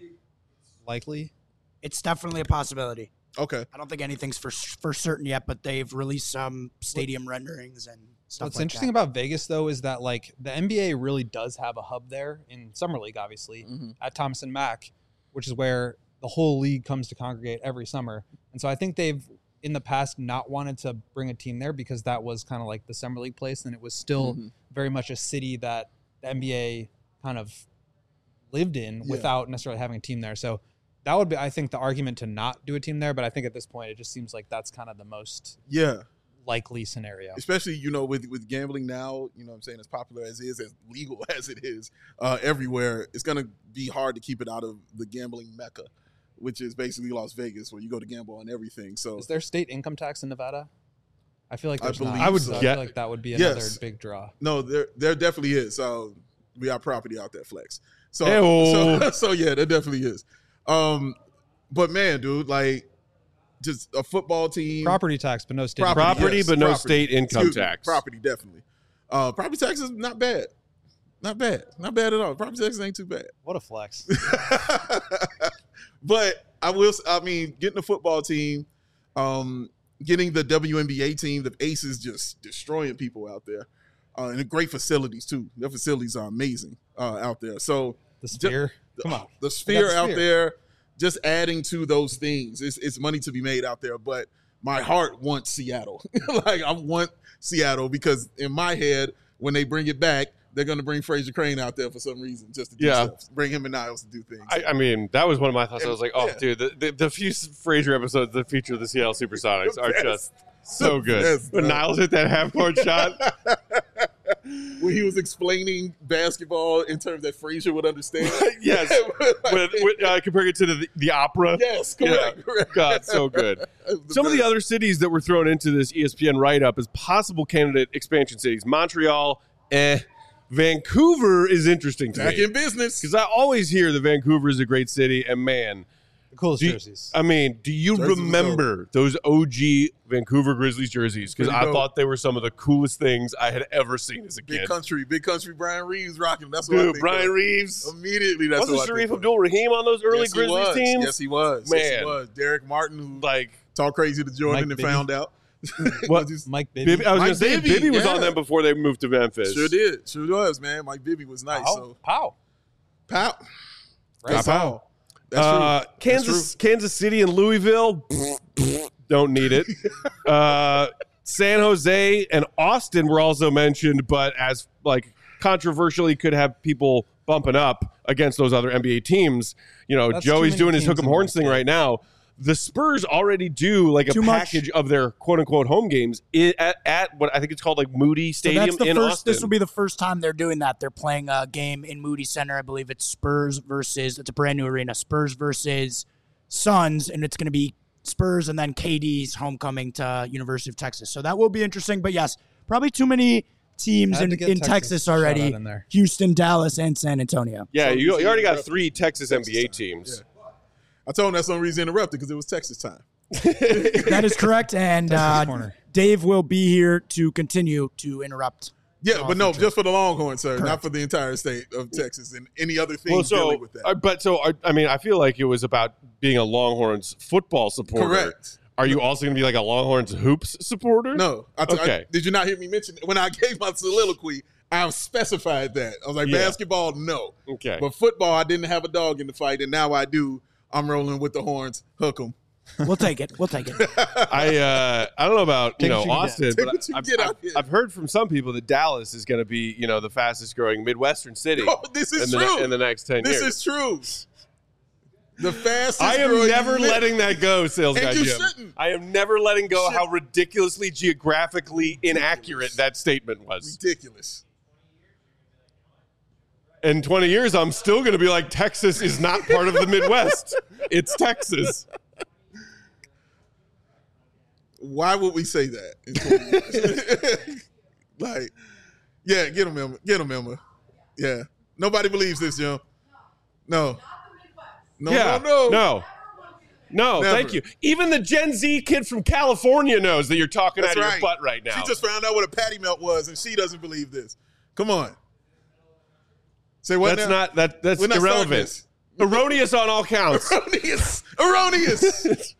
likely. It's definitely a possibility. Okay. I don't think anything's for for certain yet, but they've released some stadium renderings and stuff. What's like interesting that. about Vegas, though, is that like the N B A really does have a hub there in Summer League, obviously, Mhm. at Thomas and Mack, which is where the whole league comes to congregate every summer. And so I think they've in the past not wanted to bring a team there because that was kind of like the Summer League place, and it was still Mhm. very much a city that the N B A kind of lived in Yeah. without necessarily having a team there. So that would be, I think, the argument to not do a team there. But I think at this point, it just seems like that's kind of the most Yeah. likely scenario. Especially, you know, with, with gambling now, you know what I'm saying, as popular as it is, as legal as it is uh, everywhere, it's going to be hard to keep it out of the gambling mecca, which is basically Las Vegas, where you go to gamble on everything. So Is there state income tax in Nevada? I feel like I there's not. believe I would so I get- feel like that would be Yes. another big draw. no, there there definitely is. So we got property out there, Flex. So Hey-o. so, so yeah, there definitely is. Um, but man, dude, like just a football team, Property tax, but no state. Property, income Property, yes, but no property. state income Excuse me, tax. property definitely. Uh, property tax is not bad, not bad, not bad at all. Property taxes ain't too bad. What a flex. But I will. I mean, getting the football team, um, getting the W N B A team, the Aces just destroying people out there, uh, and great facilities too. Their facilities are amazing uh, out there. So The Sphere. the, Come on. the sphere the out Sphere. there, just adding to those things. It's, it's money to be made out there, but my heart wants Seattle. Like I want Seattle because in my head, when they bring it back, they're going to bring Fraser Crane out there for some reason, just to do Yeah. stuff. Bring him and Niles to do things. I, I mean, that was one of my thoughts. I was like, oh, Yeah. dude, the, the, the few Fraser episodes that feature the Seattle Supersonics The are best. just so The good. best, When bro. Niles hit that half court shot, When he was explaining basketball in terms that Frazier would understand. yes, Like, when, when, uh, comparing it to the, the opera. yes, correct, Yeah. correct. God, so good. Some of the other cities that were thrown into this E S P N write-up as possible candidate expansion cities. Montreal, eh. Vancouver is interesting to back me. in business. Because I always hear that Vancouver is a great city, and man, The coolest do you- jerseys. I mean, do you Jerseys was remember those O G Vancouver Grizzlies jerseys? Because Pretty I dope. thought they were some of the coolest things I had ever seen as a Big kid. country, big country. Brian Reeves rocking. That's what I Dude, think Brian of. Reeves. Immediately, that's Wasn't what I Sharif think of. Abdul Rahim on those early yes, he Grizzlies was. teams? Yes, he was. Yes, he Man. was. Derek Martin, who Like, talked crazy to Jordan Mike and Bibby. found out. What? Just- Mike Bibby. Bibby, I was Mike going to say, Bibby, Bibby was yeah. on them before they moved to Memphis. Sure did. Sure was, man. Mike Bibby was nice. Pow. So, Pow. pow. Right. That's all. That's Uh, true. Kansas, Kansas City and Louisville, don't need it. Uh, San Jose and Austin were also mentioned, but as like controversially could have people bumping up against those other N B A teams. You know, That's too Joey's many doing his teams hook'em in horns one thing state. right now. The Spurs already do like a Too much. package of their quote unquote home games i- at, at what I think it's called like Moody So Stadium that's the in first. Austin. This will be the first time they're doing that. They're playing a game in Moody Center. I believe it's Spurs versus. It's a brand new arena. Spurs versus Suns, and it's going to be Spurs and then K D's homecoming to University of Texas. So that will be interesting. But yes, probably too many teams Had in, to get in Texas Texas shout already. out in there. Houston, Dallas, and San Antonio. yeah, So you, you you already see got the- three Texas, Texas N B A time. teams. I told him that's the only reason he interrupted because it was Texas time. That is correct. And Texas uh, corner. Dave will be here to continue to interrupt. Yeah, all but no, future. just for the Longhorn, sir, not Correct. for the entire state of Texas and any other thing Well, so, dealing with that. uh, but so, I, I mean, I feel like it was about being a Longhorns football supporter. Correct. Are you also going to be like a Longhorns hoops supporter? No. I t- I- Okay. did you not hear me mention when I gave my soliloquy? I specified that. I was like, Yeah. basketball, no. Okay. But football, I didn't have a dog in the fight, and now I do. I'm rolling with the horns. Hook 'em. We'll take it. We'll take it. I uh, I don't know about you Take know what you can Austin, get. but Take what you I've, get I've, out here. I've heard from some people that Dallas is going to be you know the fastest growing Midwestern city Oh, this is in the, true. in the next ten This years. is true. The fastest. I am growing never mid- letting that go, sales And guy you Jim. shouldn't. I am never letting go Should- how ridiculously geographically inaccurate that statement was. ridiculous. In twenty years, I'm still going to be like, Texas is not part of the Midwest. It's Texas. Why would we say that? in twenty years? Like, yeah, get him, Emma. Get him, Emma. Yeah. Nobody believes this, Jim. No. No, yeah. no, no. No. No, Never. thank you. Even the Gen Z kid from California knows that you're talking That's out of right. your butt right now. She just found out what a patty melt was, and she doesn't believe this. Come on. Say what that's now? not that that's We're not starting irrelevant. this. Erroneous on all counts. Erroneous. Erroneous.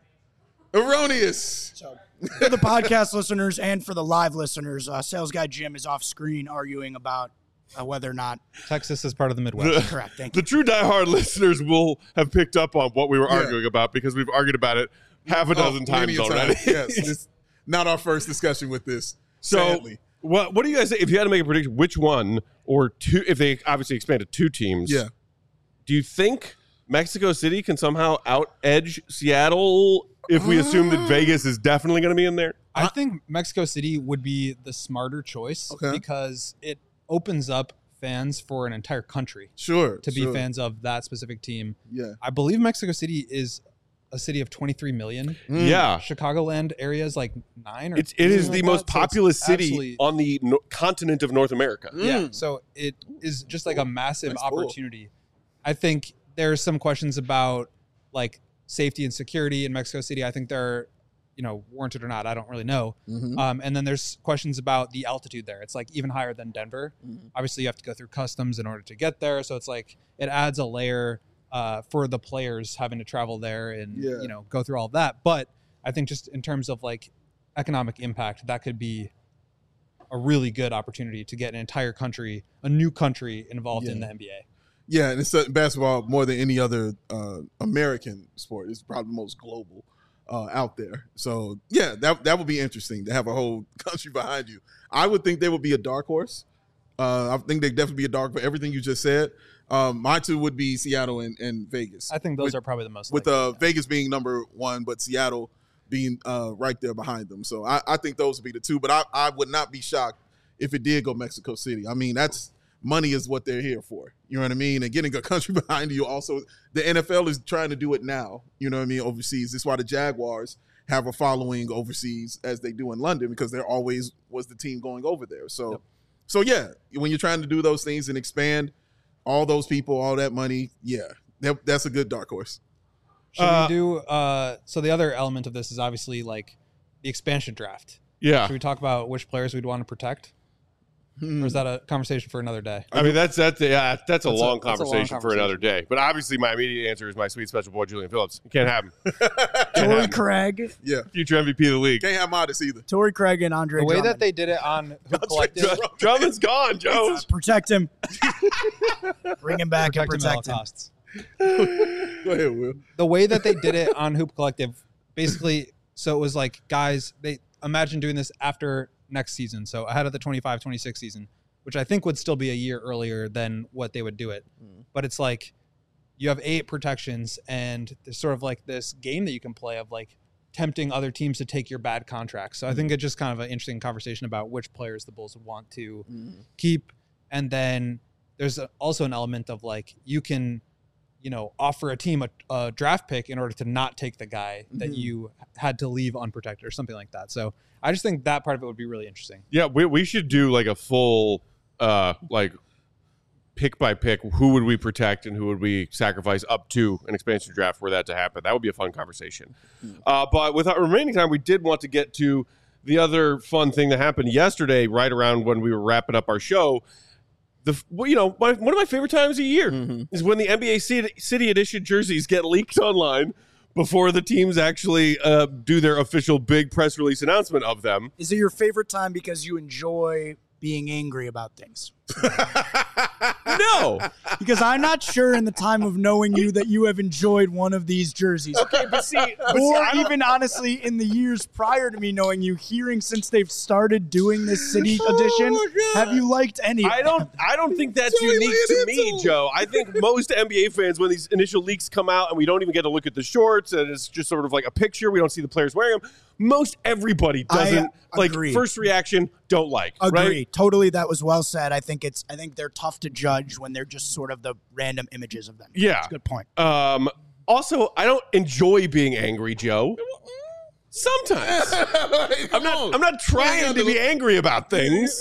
Erroneous. So, for the podcast listeners and for the live listeners, uh, sales guy Jim is off screen arguing about uh, whether or not. Texas is part of the Midwest. Correct. Thank The you. true diehard listeners will have picked up on what we were Yeah. arguing about because we've argued about it half a dozen Oh, times many a time. already. Yes. It's not our first discussion with this. So, sadly. what what do you guys say if you had to make a prediction? Which one or two? If they obviously expanded two teams, Yeah. do you think Mexico City can somehow out edge Seattle? If we assume that Vegas is definitely going to be in there, I think Mexico City would be the smarter choice Okay. because it opens up fans for an entire country Sure. to be sure. fans of that specific team. Yeah. I believe Mexico City is a city of twenty-three million. yeah, Chicagoland area is like nine or it's it is something the like most that. So it's populous city absolutely- on the no- continent of North America. Yeah, Mm. so it is just like a massive Nice pull. opportunity. I think there's some questions about like safety and security in Mexico City. I think they're, you know, warranted or not. I don't really know. Mhm. Um, and then there's questions about the altitude there. It's like even higher than Denver. Mhm. Obviously, you have to go through customs in order to get there. So it's like it adds a layer uh, for the players having to travel there and Yeah. you know go through all of that. But I think just in terms of like economic impact, that could be a really good opportunity to get an entire country, a new country involved in Yeah. the N B A. Yeah, and it's uh, basketball more than any other uh, American sport. It's probably the most global uh, out there. So yeah, that that would be interesting to have a whole country behind you. I would think they would be a dark horse. Uh, I think they'd definitely be a dark for everything you just said. Um, my two would be Seattle and, and Vegas. I think those With- are probably the most with likely, uh, yeah. Vegas being number one, but Seattle being uh, right there behind them. So I, I think those would be the two. But I, I would not be shocked if it did go Mexico City. I mean, that's money is what they're here for. You know what I mean? And getting a country behind you. Also, the N F L is trying to do it now. You know what I mean? Overseas. That's why the Jaguars have a following overseas as they do in London because there always was the team going over there. So, Yep. so yeah, when you're trying to do those things and expand all those people, all that money, yeah, that, that's a good dark horse. Should Uh, we do? Uh, so the other element of this is obviously like the expansion draft. Yeah, Should we talk about which players we'd want to protect, Hmm. or is that a conversation for another day? I mean that's that's yeah that's a That's a- long that's a long conversation for another day. But obviously, my immediate answer is my sweet special boy Julian Phillips. You can't have him. Torrey Craig, Yeah, Future M V P of the league. can't have Modest either. Torrey Craig, and Andre The way Drummond. that they did it on Hoop Collective, Drummond. Drummond's gone, Joe. Uh, protect him, bring him back and protect him at all protect him. costs. Go ahead, Will. The way that they did it on Hoop Collective, basically, so it was like, guys, they imagine doing this after next season, so ahead of the twenty-five twenty-six season, which I think would still be a year earlier than what they would do it. But it's like you have eight protections, and there's sort of like this game that you can play of like tempting other teams to take your bad contracts. So I think it's just kind of an interesting conversation about which players the Bulls would want to keep. And then there's a, also an element of like you can, you know, offer a team a, a draft pick in order to not take the guy that Mhm. you had to leave unprotected or something like that. So I just think that part of it would be really interesting. Yeah, we we should do like a full uh like pick by pick. Who would we protect and who would we sacrifice up to an expansion draft for that to happen? That would be a fun conversation. Uh, but with our remaining time, we did want to get to the other fun thing that happened yesterday, right around when we were wrapping up our show. The well, you know my, one of my favorite times of year is when the N B A City, City Edition jerseys get leaked online before the teams actually uh, do their official big press release announcement of them. Is it your favorite time because you enjoy being angry about things? No. Because I'm not sure in the time of knowing you that you have enjoyed one of these jerseys. Okay, but see, but see, Or I don't- even honestly, in the years prior to me knowing you, hearing since they've started doing this city edition, my God. have you liked any of I don't. I don't think that's Joey, unique lay to it me, into. Joe. I think most N B A fans, when these initial leaks come out and we don't even get to look at the shorts, and it's just sort of like a picture, we don't see the players wearing them. Most everybody doesn't I like. agree. First reaction, don't like. Agree. Right? Totally, that was well said. I think it's. I think they're tough to judge when they're just sort of the random images of them. Yeah. That's a good point. Um. Also, I don't enjoy being angry, Joe. Sometimes I'm not. I'm not trying to be angry about things.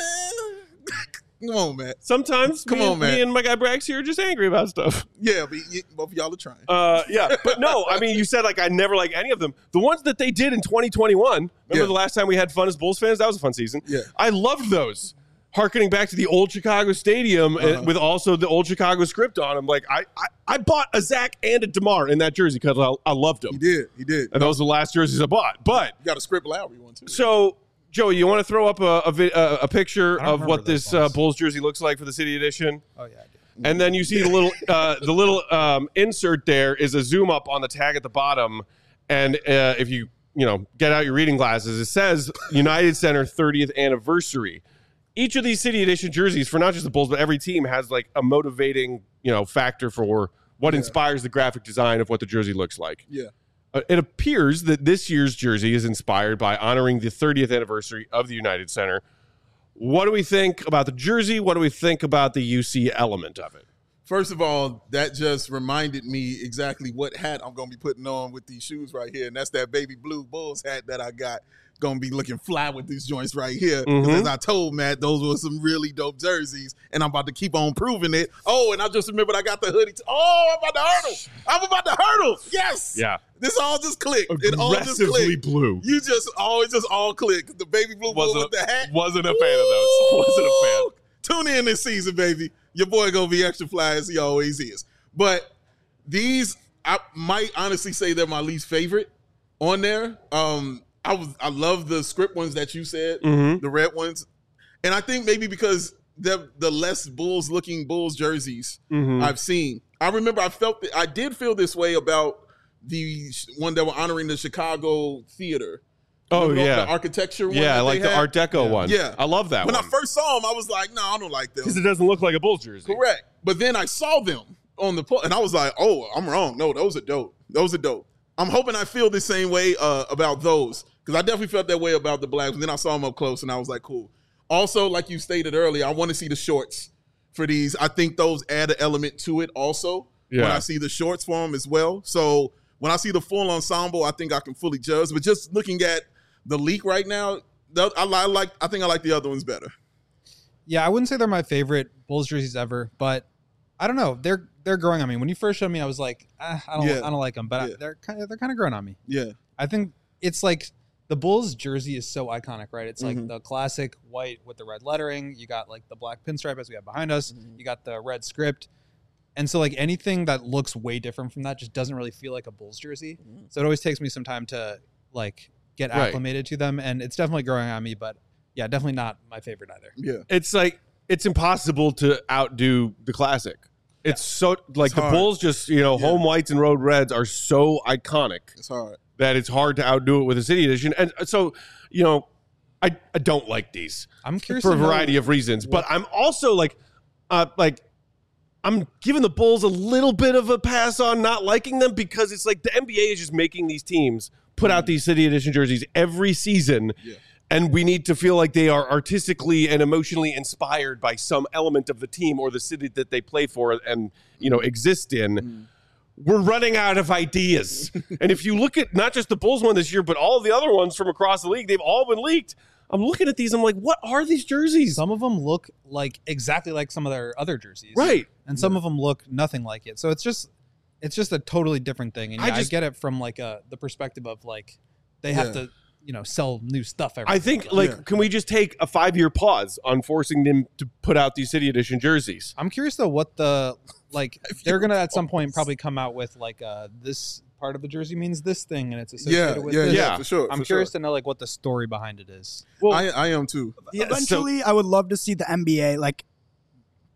Come on, Matt. Sometimes Come me, on, and, man. me and my guy Brax here are just angry about stuff. Yeah, but y- both of y'all are trying. Uh, yeah, but no, I mean, you said like I never like any of them. The ones that they did in twenty twenty-one. Remember Yeah. the last time we had fun as Bulls fans? That was a fun season. Yeah. I loved those. Harkening back to the old Chicago Stadium uh, Uh-huh. with also the old Chicago script on them. Like I, I, I bought a Zach and a DeMar in that jersey because I, I loved them. He did. He did. And those are the last jerseys I bought. But You got a script Lowry one too. so, Joey, you want to throw up a a, vi- a, a picture I don't of remember what those this uh, ones. Bulls jersey looks like for the City Edition? Oh yeah, I do. And then you see the little uh, the little um, insert there is a zoom up on the tag at the bottom, and uh, if you you know get out your reading glasses, it says United Center thirtieth anniversary. Each of these City Edition jerseys for not just the Bulls but every team has like a motivating you know factor for what inspires the graphic design of what the jersey looks like. Yeah. Uh, it appears that this year's jersey is inspired by honoring the thirtieth anniversary of the United Center. What do we think about the jersey? What do we think about the U C element of it? First of all, that just reminded me exactly what hat I'm going to be putting on with these shoes right here. And that's that baby blue Bulls hat that I got. Going to be looking fly with these joints right here. Because Mhm. as I told Matt, those were some really dope jerseys. And I'm about to keep on proving it. Oh, and I just remembered I got the hoodie. T- oh, I'm about to hurdle. I'm about to hurdle. Yes. Yeah. This all just clicked. It all just Aggressively clicked. blue. You just always just all clicked. The baby blue Bull Wasn't, with the hat. wasn't a fan of those. Wasn't a fan. Woo! Tune in this season, baby. Your boy gonna be extra fly as he always is. But these, I might honestly say they're my least favorite on there. Um, I was, I love the script ones that you said, Mhm. the red ones, and I think maybe because they're the less Bulls looking Bulls jerseys Mhm. I've seen. I remember I felt that I did feel this way about the sh- one that were honoring the Chicago theater. Oh, Remember the yeah. architecture one. Yeah, I that like they the had? Art Deco one. Yeah. I love that When one. I first saw them, I was like, no, I don't like them. Because it doesn't look like a Bulls jersey. Correct. But then I saw them on the po- and I was like, oh, I'm wrong. No, those are dope. Those are dope. I'm hoping I feel the same way uh, about those because I definitely felt that way about the blacks. And then I saw them up close and I was like, cool. Also, like you stated earlier, I want to see the shorts for these. I think those add an element to it also when Yeah. I see the shorts for them as well. So when I see the full ensemble, I think I can fully judge. But just looking at the leak right now, the- I, li- I like. I think I like the other ones better. Yeah, I wouldn't say they're my favorite Bulls jerseys ever, but I don't know. They're they're growing on me. When you first showed me, I was like, ah, I don't Yeah. I don't like them, but I- Yeah. they're kind of they're kind of growing on me. Yeah. I think it's like the Bulls jersey is so iconic, right? It's like Mhm. the classic white with the red lettering. You got like the black pinstripe as we have behind us. Mm-hmm. You got the red script. And so like anything that looks way different from that just doesn't really feel like a Bulls jersey. So it always takes me some time to like get Right. acclimated to them, and it's definitely growing on me, but yeah, definitely not my favorite either. Yeah. It's like, it's impossible to outdo the classic. It's so, like It's the hard. Bulls just, you know, Yeah. home whites and road reds are so iconic It's hard. that it's hard to outdo it with a City Edition. And so, you know, I, I don't like these. I'm curious for a to know variety of reasons. But I'm also like, uh, like, I'm giving the Bulls a little bit of a pass on not liking them because it's like the N B A is just making these teams put out these City Edition jerseys every season. Yeah. And we need to feel like they are artistically and emotionally inspired by some element of the team or the city that they play for and, you know, exist in. We're running out of ideas. And if you look at not just the Bulls one this year, but all the other ones from across the league, they've all been leaked. I'm looking at these. I'm like, what are these jerseys? some of them look like exactly like some of their other jerseys, Right. And some of them look nothing like it. So it's just it's just a totally different thing. And I yeah, I, just- get it from like a the perspective of like they have Yeah. to, you know, sell new stuff every I think, like, Yeah. can we just take a five year pause on forcing them to put out these City Edition jerseys? I'm curious though what the like they're gonna at some point pause. probably come out with like uh this part of the jersey means this thing and it's associated Yeah, with yeah, this. yeah, Yeah. for sure. I'm for curious sure. to know like what the story behind it is. Well, I, I am too. yeah, so- Eventually, I would love to see the N B A. Like,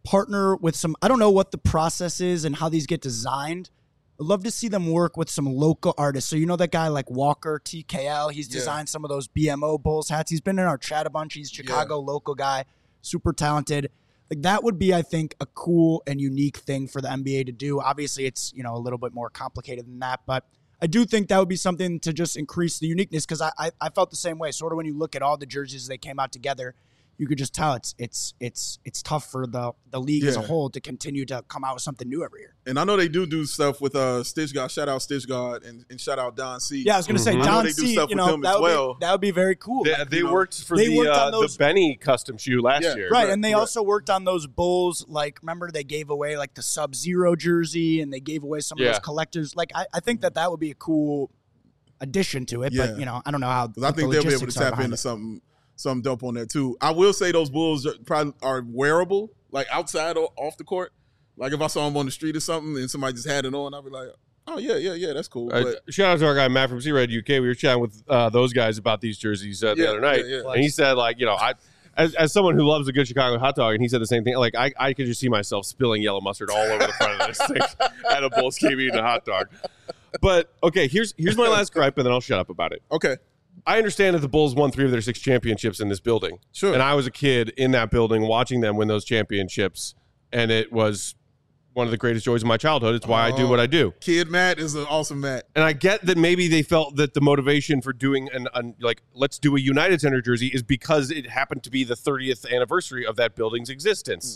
partner with some, I don't know what the process is and how these get designed. I'd love to see them work with some local artists. So you know that guy like Walker, T K L, he's Yeah. designed some of those B M O Bulls hats. He's been in our chat a bunch. He's Chicago Yeah. local guy, super talented. Like that would be, I think, a cool and unique thing for the N B A to do. Obviously, it's, you know, a little bit more complicated than that, but I do think that would be something to just increase the uniqueness because I, I I felt the same way. Sort of when you look at all the jerseys they came out together, you could just tell it's it's it's it's tough for the the league as a Yeah. whole to continue to come out with something new every year. And I know they do do stuff with uh, Stitch God. Shout out Stitch God and, and shout out Don C. Yeah, I was gonna say Mhm. I know Don they do C. stuff You with know, them that as would well. be, that would be very cool. They, Like, they you know, worked for they the worked on uh, the those- Benny custom shoe last Yeah. year. Right, Correct, and they correct. also worked on those Bulls. Like, remember they gave away like the Sub Zero jersey, and they gave away some of Yeah. those collectors. Like, I, I think that that would be a cool addition to it. Yeah. But you know, I don't know how. 'Cause I what think the they'll be able to logistics are tap behind into it. something, something dope on that too. I will say those Bulls are probably are wearable, like outside or off the court. Like if I saw them on the street or something and somebody just had it on, I'd be like, oh yeah, yeah, yeah, that's cool. Uh, But shout out to our guy Matt from Z-Red U K. We were chatting with uh, those guys about these jerseys uh, the Yeah, other night, yeah, yeah. and he said, like, you know, I, as, as someone who loves a good Chicago hot dog, and he said the same thing. Like, I, I could just see myself spilling yellow mustard all over the front of this thing at a Bulls game eating a hot dog. But okay, here's here's my last gripe, and then I'll shut up about it. okay, I understand that the Bulls won three of their six championships in this building. Sure. And I was a kid in that building watching them win those championships, and it was one of the greatest joys of my childhood. It's why I do what I do. Kid Matt is an awesome Matt. And I get that maybe they felt that the motivation for doing an, an like let's do a United Center jersey is because it happened to be the thirtieth anniversary of that building's existence.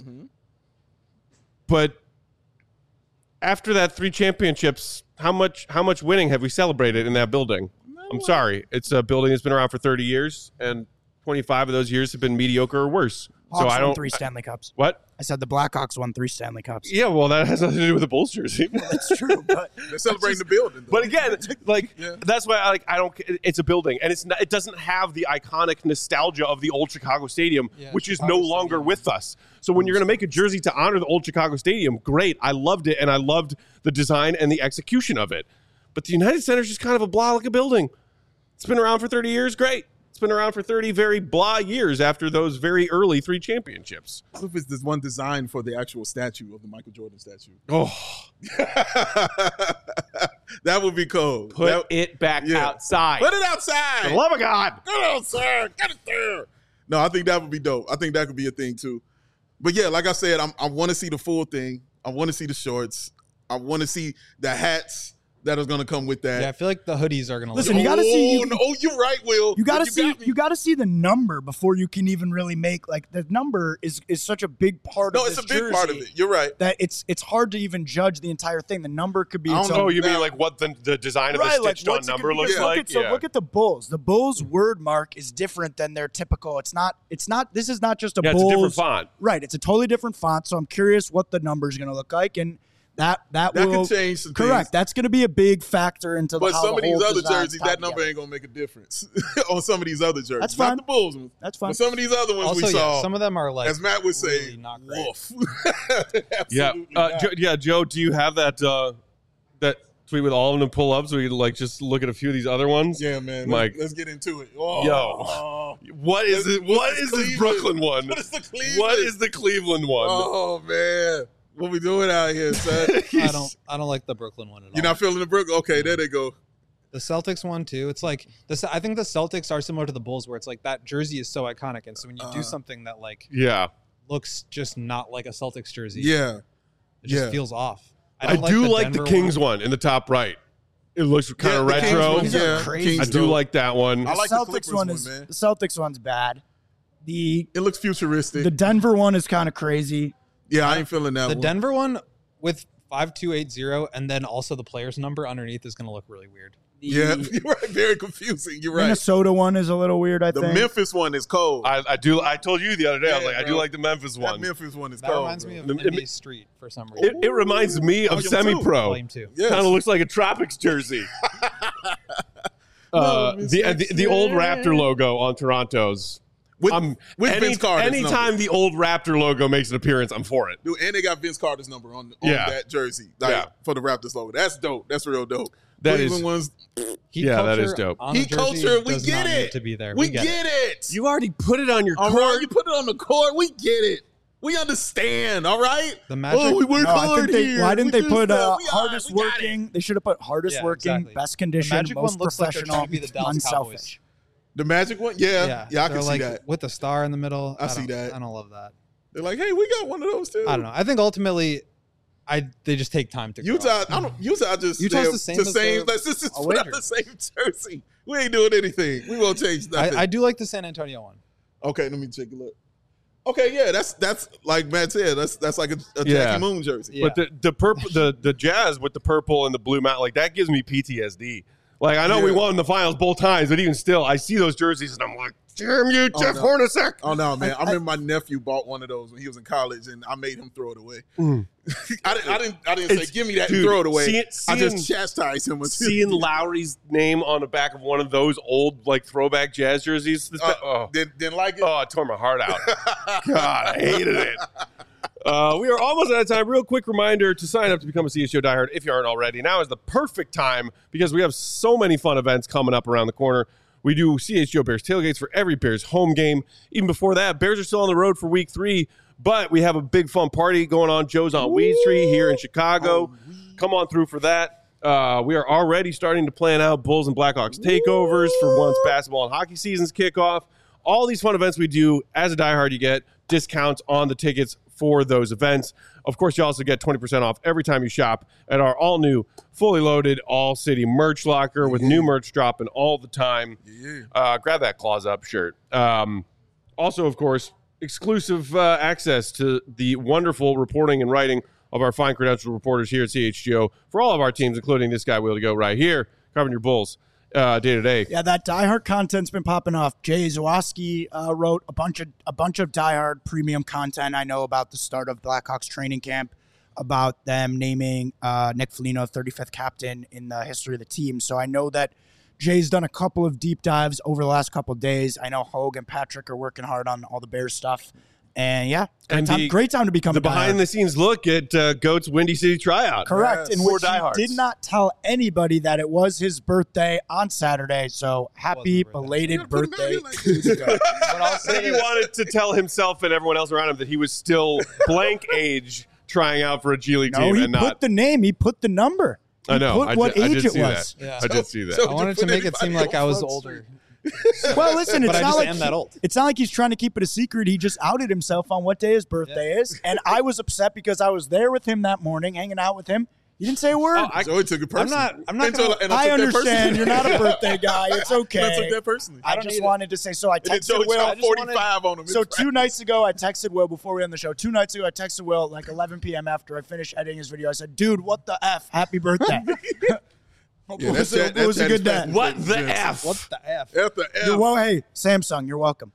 But after that three championships, how much how much winning have we celebrated in that building? I'm sorry. It's a building that's been around for thirty years, and twenty-five of those years have been mediocre or worse. Hawks so I won don't. three Stanley Cups. What? I said the Blackhawks won three Stanley Cups. Yeah, well, that has nothing to do with the Bulls jersey. That's true, but They're celebrating the building. Though. But again, like Yeah. that's why I like I don't. It's a building, and it's not. It doesn't have the iconic nostalgia of the old Chicago Stadium, Yeah, which is Chicago no longer Stadium. with us. So when you're going to make a jersey to honor the old Chicago Stadium, great. I loved it, and I loved the design and the execution of it. But the United Center is just kind of a blah like a building. It's been around for thirty years. Great. It's been around for thirty very blah years after those very early three championships. what if it's this one design for the actual statue of the Michael Jordan statue? Oh, That would be cool. put That- it back yeah. outside. Put it outside. For the love of God. Get it outside. Get it there. No, I think that would be dope. I think that could be a thing too. But yeah, like I said, I'm, I want to see the full thing. I want to see the shorts. I want to see the hats that is going to come with that. Yeah, I feel like the hoodies are gonna Listen, look you gotta see- Oh, no, oh, you're right, Will. you gotta You see got me. you gotta see the number before you can even really make like the number is is such a big part No, of it's a this big part of jersey it. You're right. that it's it's hard to even judge the entire thing. The number could be I its don't own. Oh, you mean Now- like what the, the design of Right, the like stitched on what's it number gonna be? looks Because look like? At, so yeah. look at the Bulls. The Bulls word mark is different than their typical. It's not. It's not. This is not just a yeah, it's a Bulls. different font. Right. It's a totally different font. So I'm curious what the number is going to look like, and that that, That will could change some correct. things. That's going to be a big factor into But how some the of these whole other design's jerseys, tied that number together. ain't going to make a difference on some of these other jerseys. That's Not fine. the Bulls ones. That's fine. But some of these other ones Also, we yeah, saw, some of them are like as Matt would say, really not great. woof. Yeah, Absolutely uh, not. Joe, yeah, Joe. Do you have that uh, that tweet with all of them to pull up so we can like just look at a few of these other ones? Yeah, man. Mike. Let's, let's get into it. Oh, Yo. oh. What is it? What What's is the this Cleveland? Brooklyn one? What is the Cleveland? What is the Cleveland one? Oh man, what we doing out here, son? I don't I don't like the Brooklyn one at all. You're not feeling the Brook? Okay, there they go. The Celtics one too. It's like this. I think the Celtics are similar to the Bulls, where it's like that jersey is so iconic, and so when you Uh, do something that like Yeah, looks just not like a Celtics jersey, Yeah, it just yeah. feels off. I, don't do like the Denver Kings one. one. in the top right. It looks kind Yeah, of the Kings retro. one, These are yeah. crazy. Kings I do dope. like that one. I like the the Celtics Clippers one one, is man. the Celtics one's bad. The It looks futuristic. the Denver one is kind of crazy. yeah, I ain't feeling that The one. Denver one with five two eight zero, and then also the player's number underneath is going to look really weird. The Yeah, you're right. Very confusing. You're right. Minnesota one is a little weird. I The think. Memphis one is cold. I, I do. I told you the other day. I was Yeah, like, I do bro. like the Memphis that one. Memphis one is That cold. reminds bro. me of The- N B A Street for some It, reason. it reminds me of Volume two. semi-pro. Volume two. Yes. Kind of looks like a Tropics jersey. uh, No, the, the the old Raptor logo on Toronto's. with, Um, with any- Vince Carter's anytime number. the old Raptor logo makes an appearance, I'm for it. Dude, and they got Vince Carter's number on, on Yeah. that jersey, like, Yeah. for the Raptors logo. That's dope. That's real dope. That Cleveland is- ones. Heat Yeah, that culture is dope. on a Heat jersey culture, we does get not it. need to be there. We, get, get it. it. You already put it on your All court. right, you put it on the court. We get it. We understand, all right? The Magic. Oh, we work No, I hard think they, here. why didn't We they do put stuff. uh, We got- hardest we got it. working? They should have put hardest Yeah, working, exactly. best The condition, Magic most one looks like they're professional, trying to be the Dallas unselfish. Cowboys. The Magic one? Yeah. Yeah, I they're can like see that. with the star in the middle. I see don't- that. I don't love that. They're like, hey, we got one of those too. I don't know. I think ultimately, I they just take time to grow. Utah, I don't. Utah just Utah's said the same the as same. the Let's just, just away put out the jerseys. same jersey. We ain't doing anything. We won't change nothing. I, I do like the San Antonio one. okay, let me take a look. Okay, yeah, that's that's like Matt said. That's that's like a, a Jackie Yeah. Moon jersey. Yeah. But the the purple, the the Jazz with the purple and the blue mount, like that gives me P T S D. Like I know we Yeah. won the finals both times, but even still, I see those jerseys and I'm like, damn you, Oh, Jeff no. Hornacek. Oh no, man! I, I- remember my nephew bought one of those when he was in college, and I made him throw it away. Mm. I didn't. I didn't. I didn't It's- say, "Give me that dude, and throw it away." see- I seeing- just chastised him with Seeing Lowry's name on the back of one of those old like throwback Jazz jerseys, this Uh, ba- oh, Didn't, didn't like it. oh, it tore my heart out. God, I hated it. Uh, we are almost out of time. Real quick reminder to sign up to become a C S G O diehard if you aren't already. Now is the perfect time because we have so many fun events coming up around the corner. We do C H G O Bears tailgates for every Bears home game. Even before that, Bears are still on the road for week three, but we have a big fun party going on. Joe's on Weed Street here in Chicago. Come on through for that. Uh, we are already starting to plan out Bulls and Blackhawks takeovers for once basketball and hockey seasons kick off. All these fun events we do, as a diehard, you get discounts on the tickets for those events. Of course, you also get twenty percent off every time you shop at our all-new, fully loaded All-City merch locker with new merch dropping all the time. Yeah. Uh, grab that Claws Up shirt. Um, also, of course, exclusive uh, access to the wonderful reporting and writing of our fine credentialed reporters here at C H G O for all of our teams, including this guy, Will to Go, right here, covering your Bulls uh, day to day. Yeah, that Die Hard content's been popping off. Jay Zawoski uh, wrote a bunch of a bunch of Die Hard premium content. I know about the start of Blackhawks training camp, about them naming uh, Nick Foligno thirty-fifth captain in the history of the team. So I know that Jay's done a couple of deep dives over the last couple of days. I know Hogue and Patrick are working hard on all the Bears stuff. And yeah, great, And time, the- great time to become The a Die Hard. behind the scenes look at uh, Goat's Windy City tryout. Correct. Yes. In For which he diehards. did not tell anybody that it was his birthday on Saturday. So happy birthday. belated You gotta put him out birthday here like to the goat. But I'll I say think he this. wanted to tell himself and everyone else around him that he was still blank age trying out for a G League No, team he and put not. the name. He put the number. He I know. Put I what did, I age did it see was. that. Yeah. I did see that. So- I wanted to put make it seem anybody like I on was Front older. Well, listen, it's But I not just like am that old. it's not like he's trying to keep it a secret. He just outed himself on what day his birthday is, and I was upset because I was there with him that morning, hanging out with him. He didn't say a word. Oh, I- Joey took it personally. not- I'm not Until- gonna- and I took that understand personally. you're not a birthday guy. It's okay. I took that personally. I don't just need it. wanted to say so. I And then texted Joey Will. dropped forty-five on him. So two nights ago, I texted Will before we were on the show. Two nights ago, I texted Will at like eleven p.m. after I finished editing his video. I said, "Dude, what the f? Happy birthday!" Hope Yeah, it was, that chat- it that was a chat is good day. fast. What the Yeah. F? What the F? F the F. You're well, hey, Samsung, you're welcome.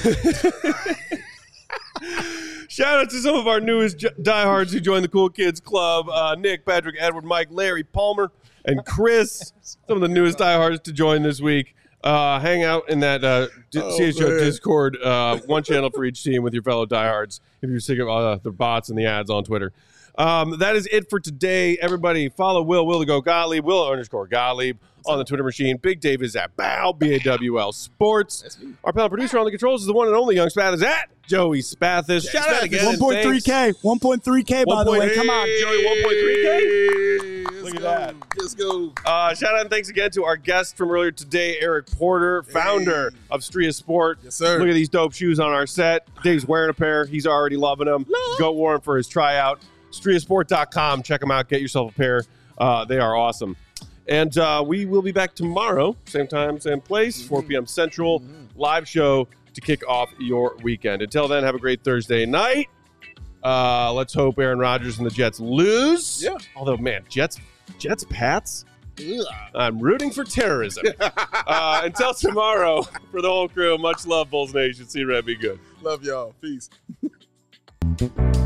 Shout out to some of our newest j- diehards who joined the Cool Kids Club. Uh, Nick, Patrick, Edward, Mike, Larry, Palmer, and Chris. Some of the newest diehards to join this week. Uh, hang out in that uh, D- Oh, C H O man. Discord. Uh, one channel for each team with your fellow diehards if you're sick of uh, the bots and the ads on Twitter. Um, that is it for today. Everybody follow Will, Will to go Gottlieb, Will underscore Gottlieb on the Twitter machine. Big Dave is at Bow, B A W L Sports. Our panel producer on the controls is the one and only Young Spath is at Joey Spathis. Shout out Spathis. again. one point three K. one point three K, by the way. Come on. Joey, one point three K. K. Look at that. Let's go. Uh, shout out and thanks again to our guest from earlier today, Eric Porter, founder Hey. of Stria Sport. Yes, sir. Look at these dope shoes on our set. Dave's wearing a pair. He's already loving them. Go Warren for his tryout. Stria Sport dot com. Check them out. Get yourself a pair. Uh, they are awesome. And uh, we will be back tomorrow, same time, same place, four p.m. Central, live show to kick off your weekend. Until then, have a great Thursday night. Uh, let's hope Aaron Rodgers and the Jets lose. Yeah. Although, man, Jets, Jets, Pats. I'm rooting for terrorism. uh, until tomorrow, for the whole crew, much love, Bulls Nation. See you, Red. Be good. Love y'all. Peace.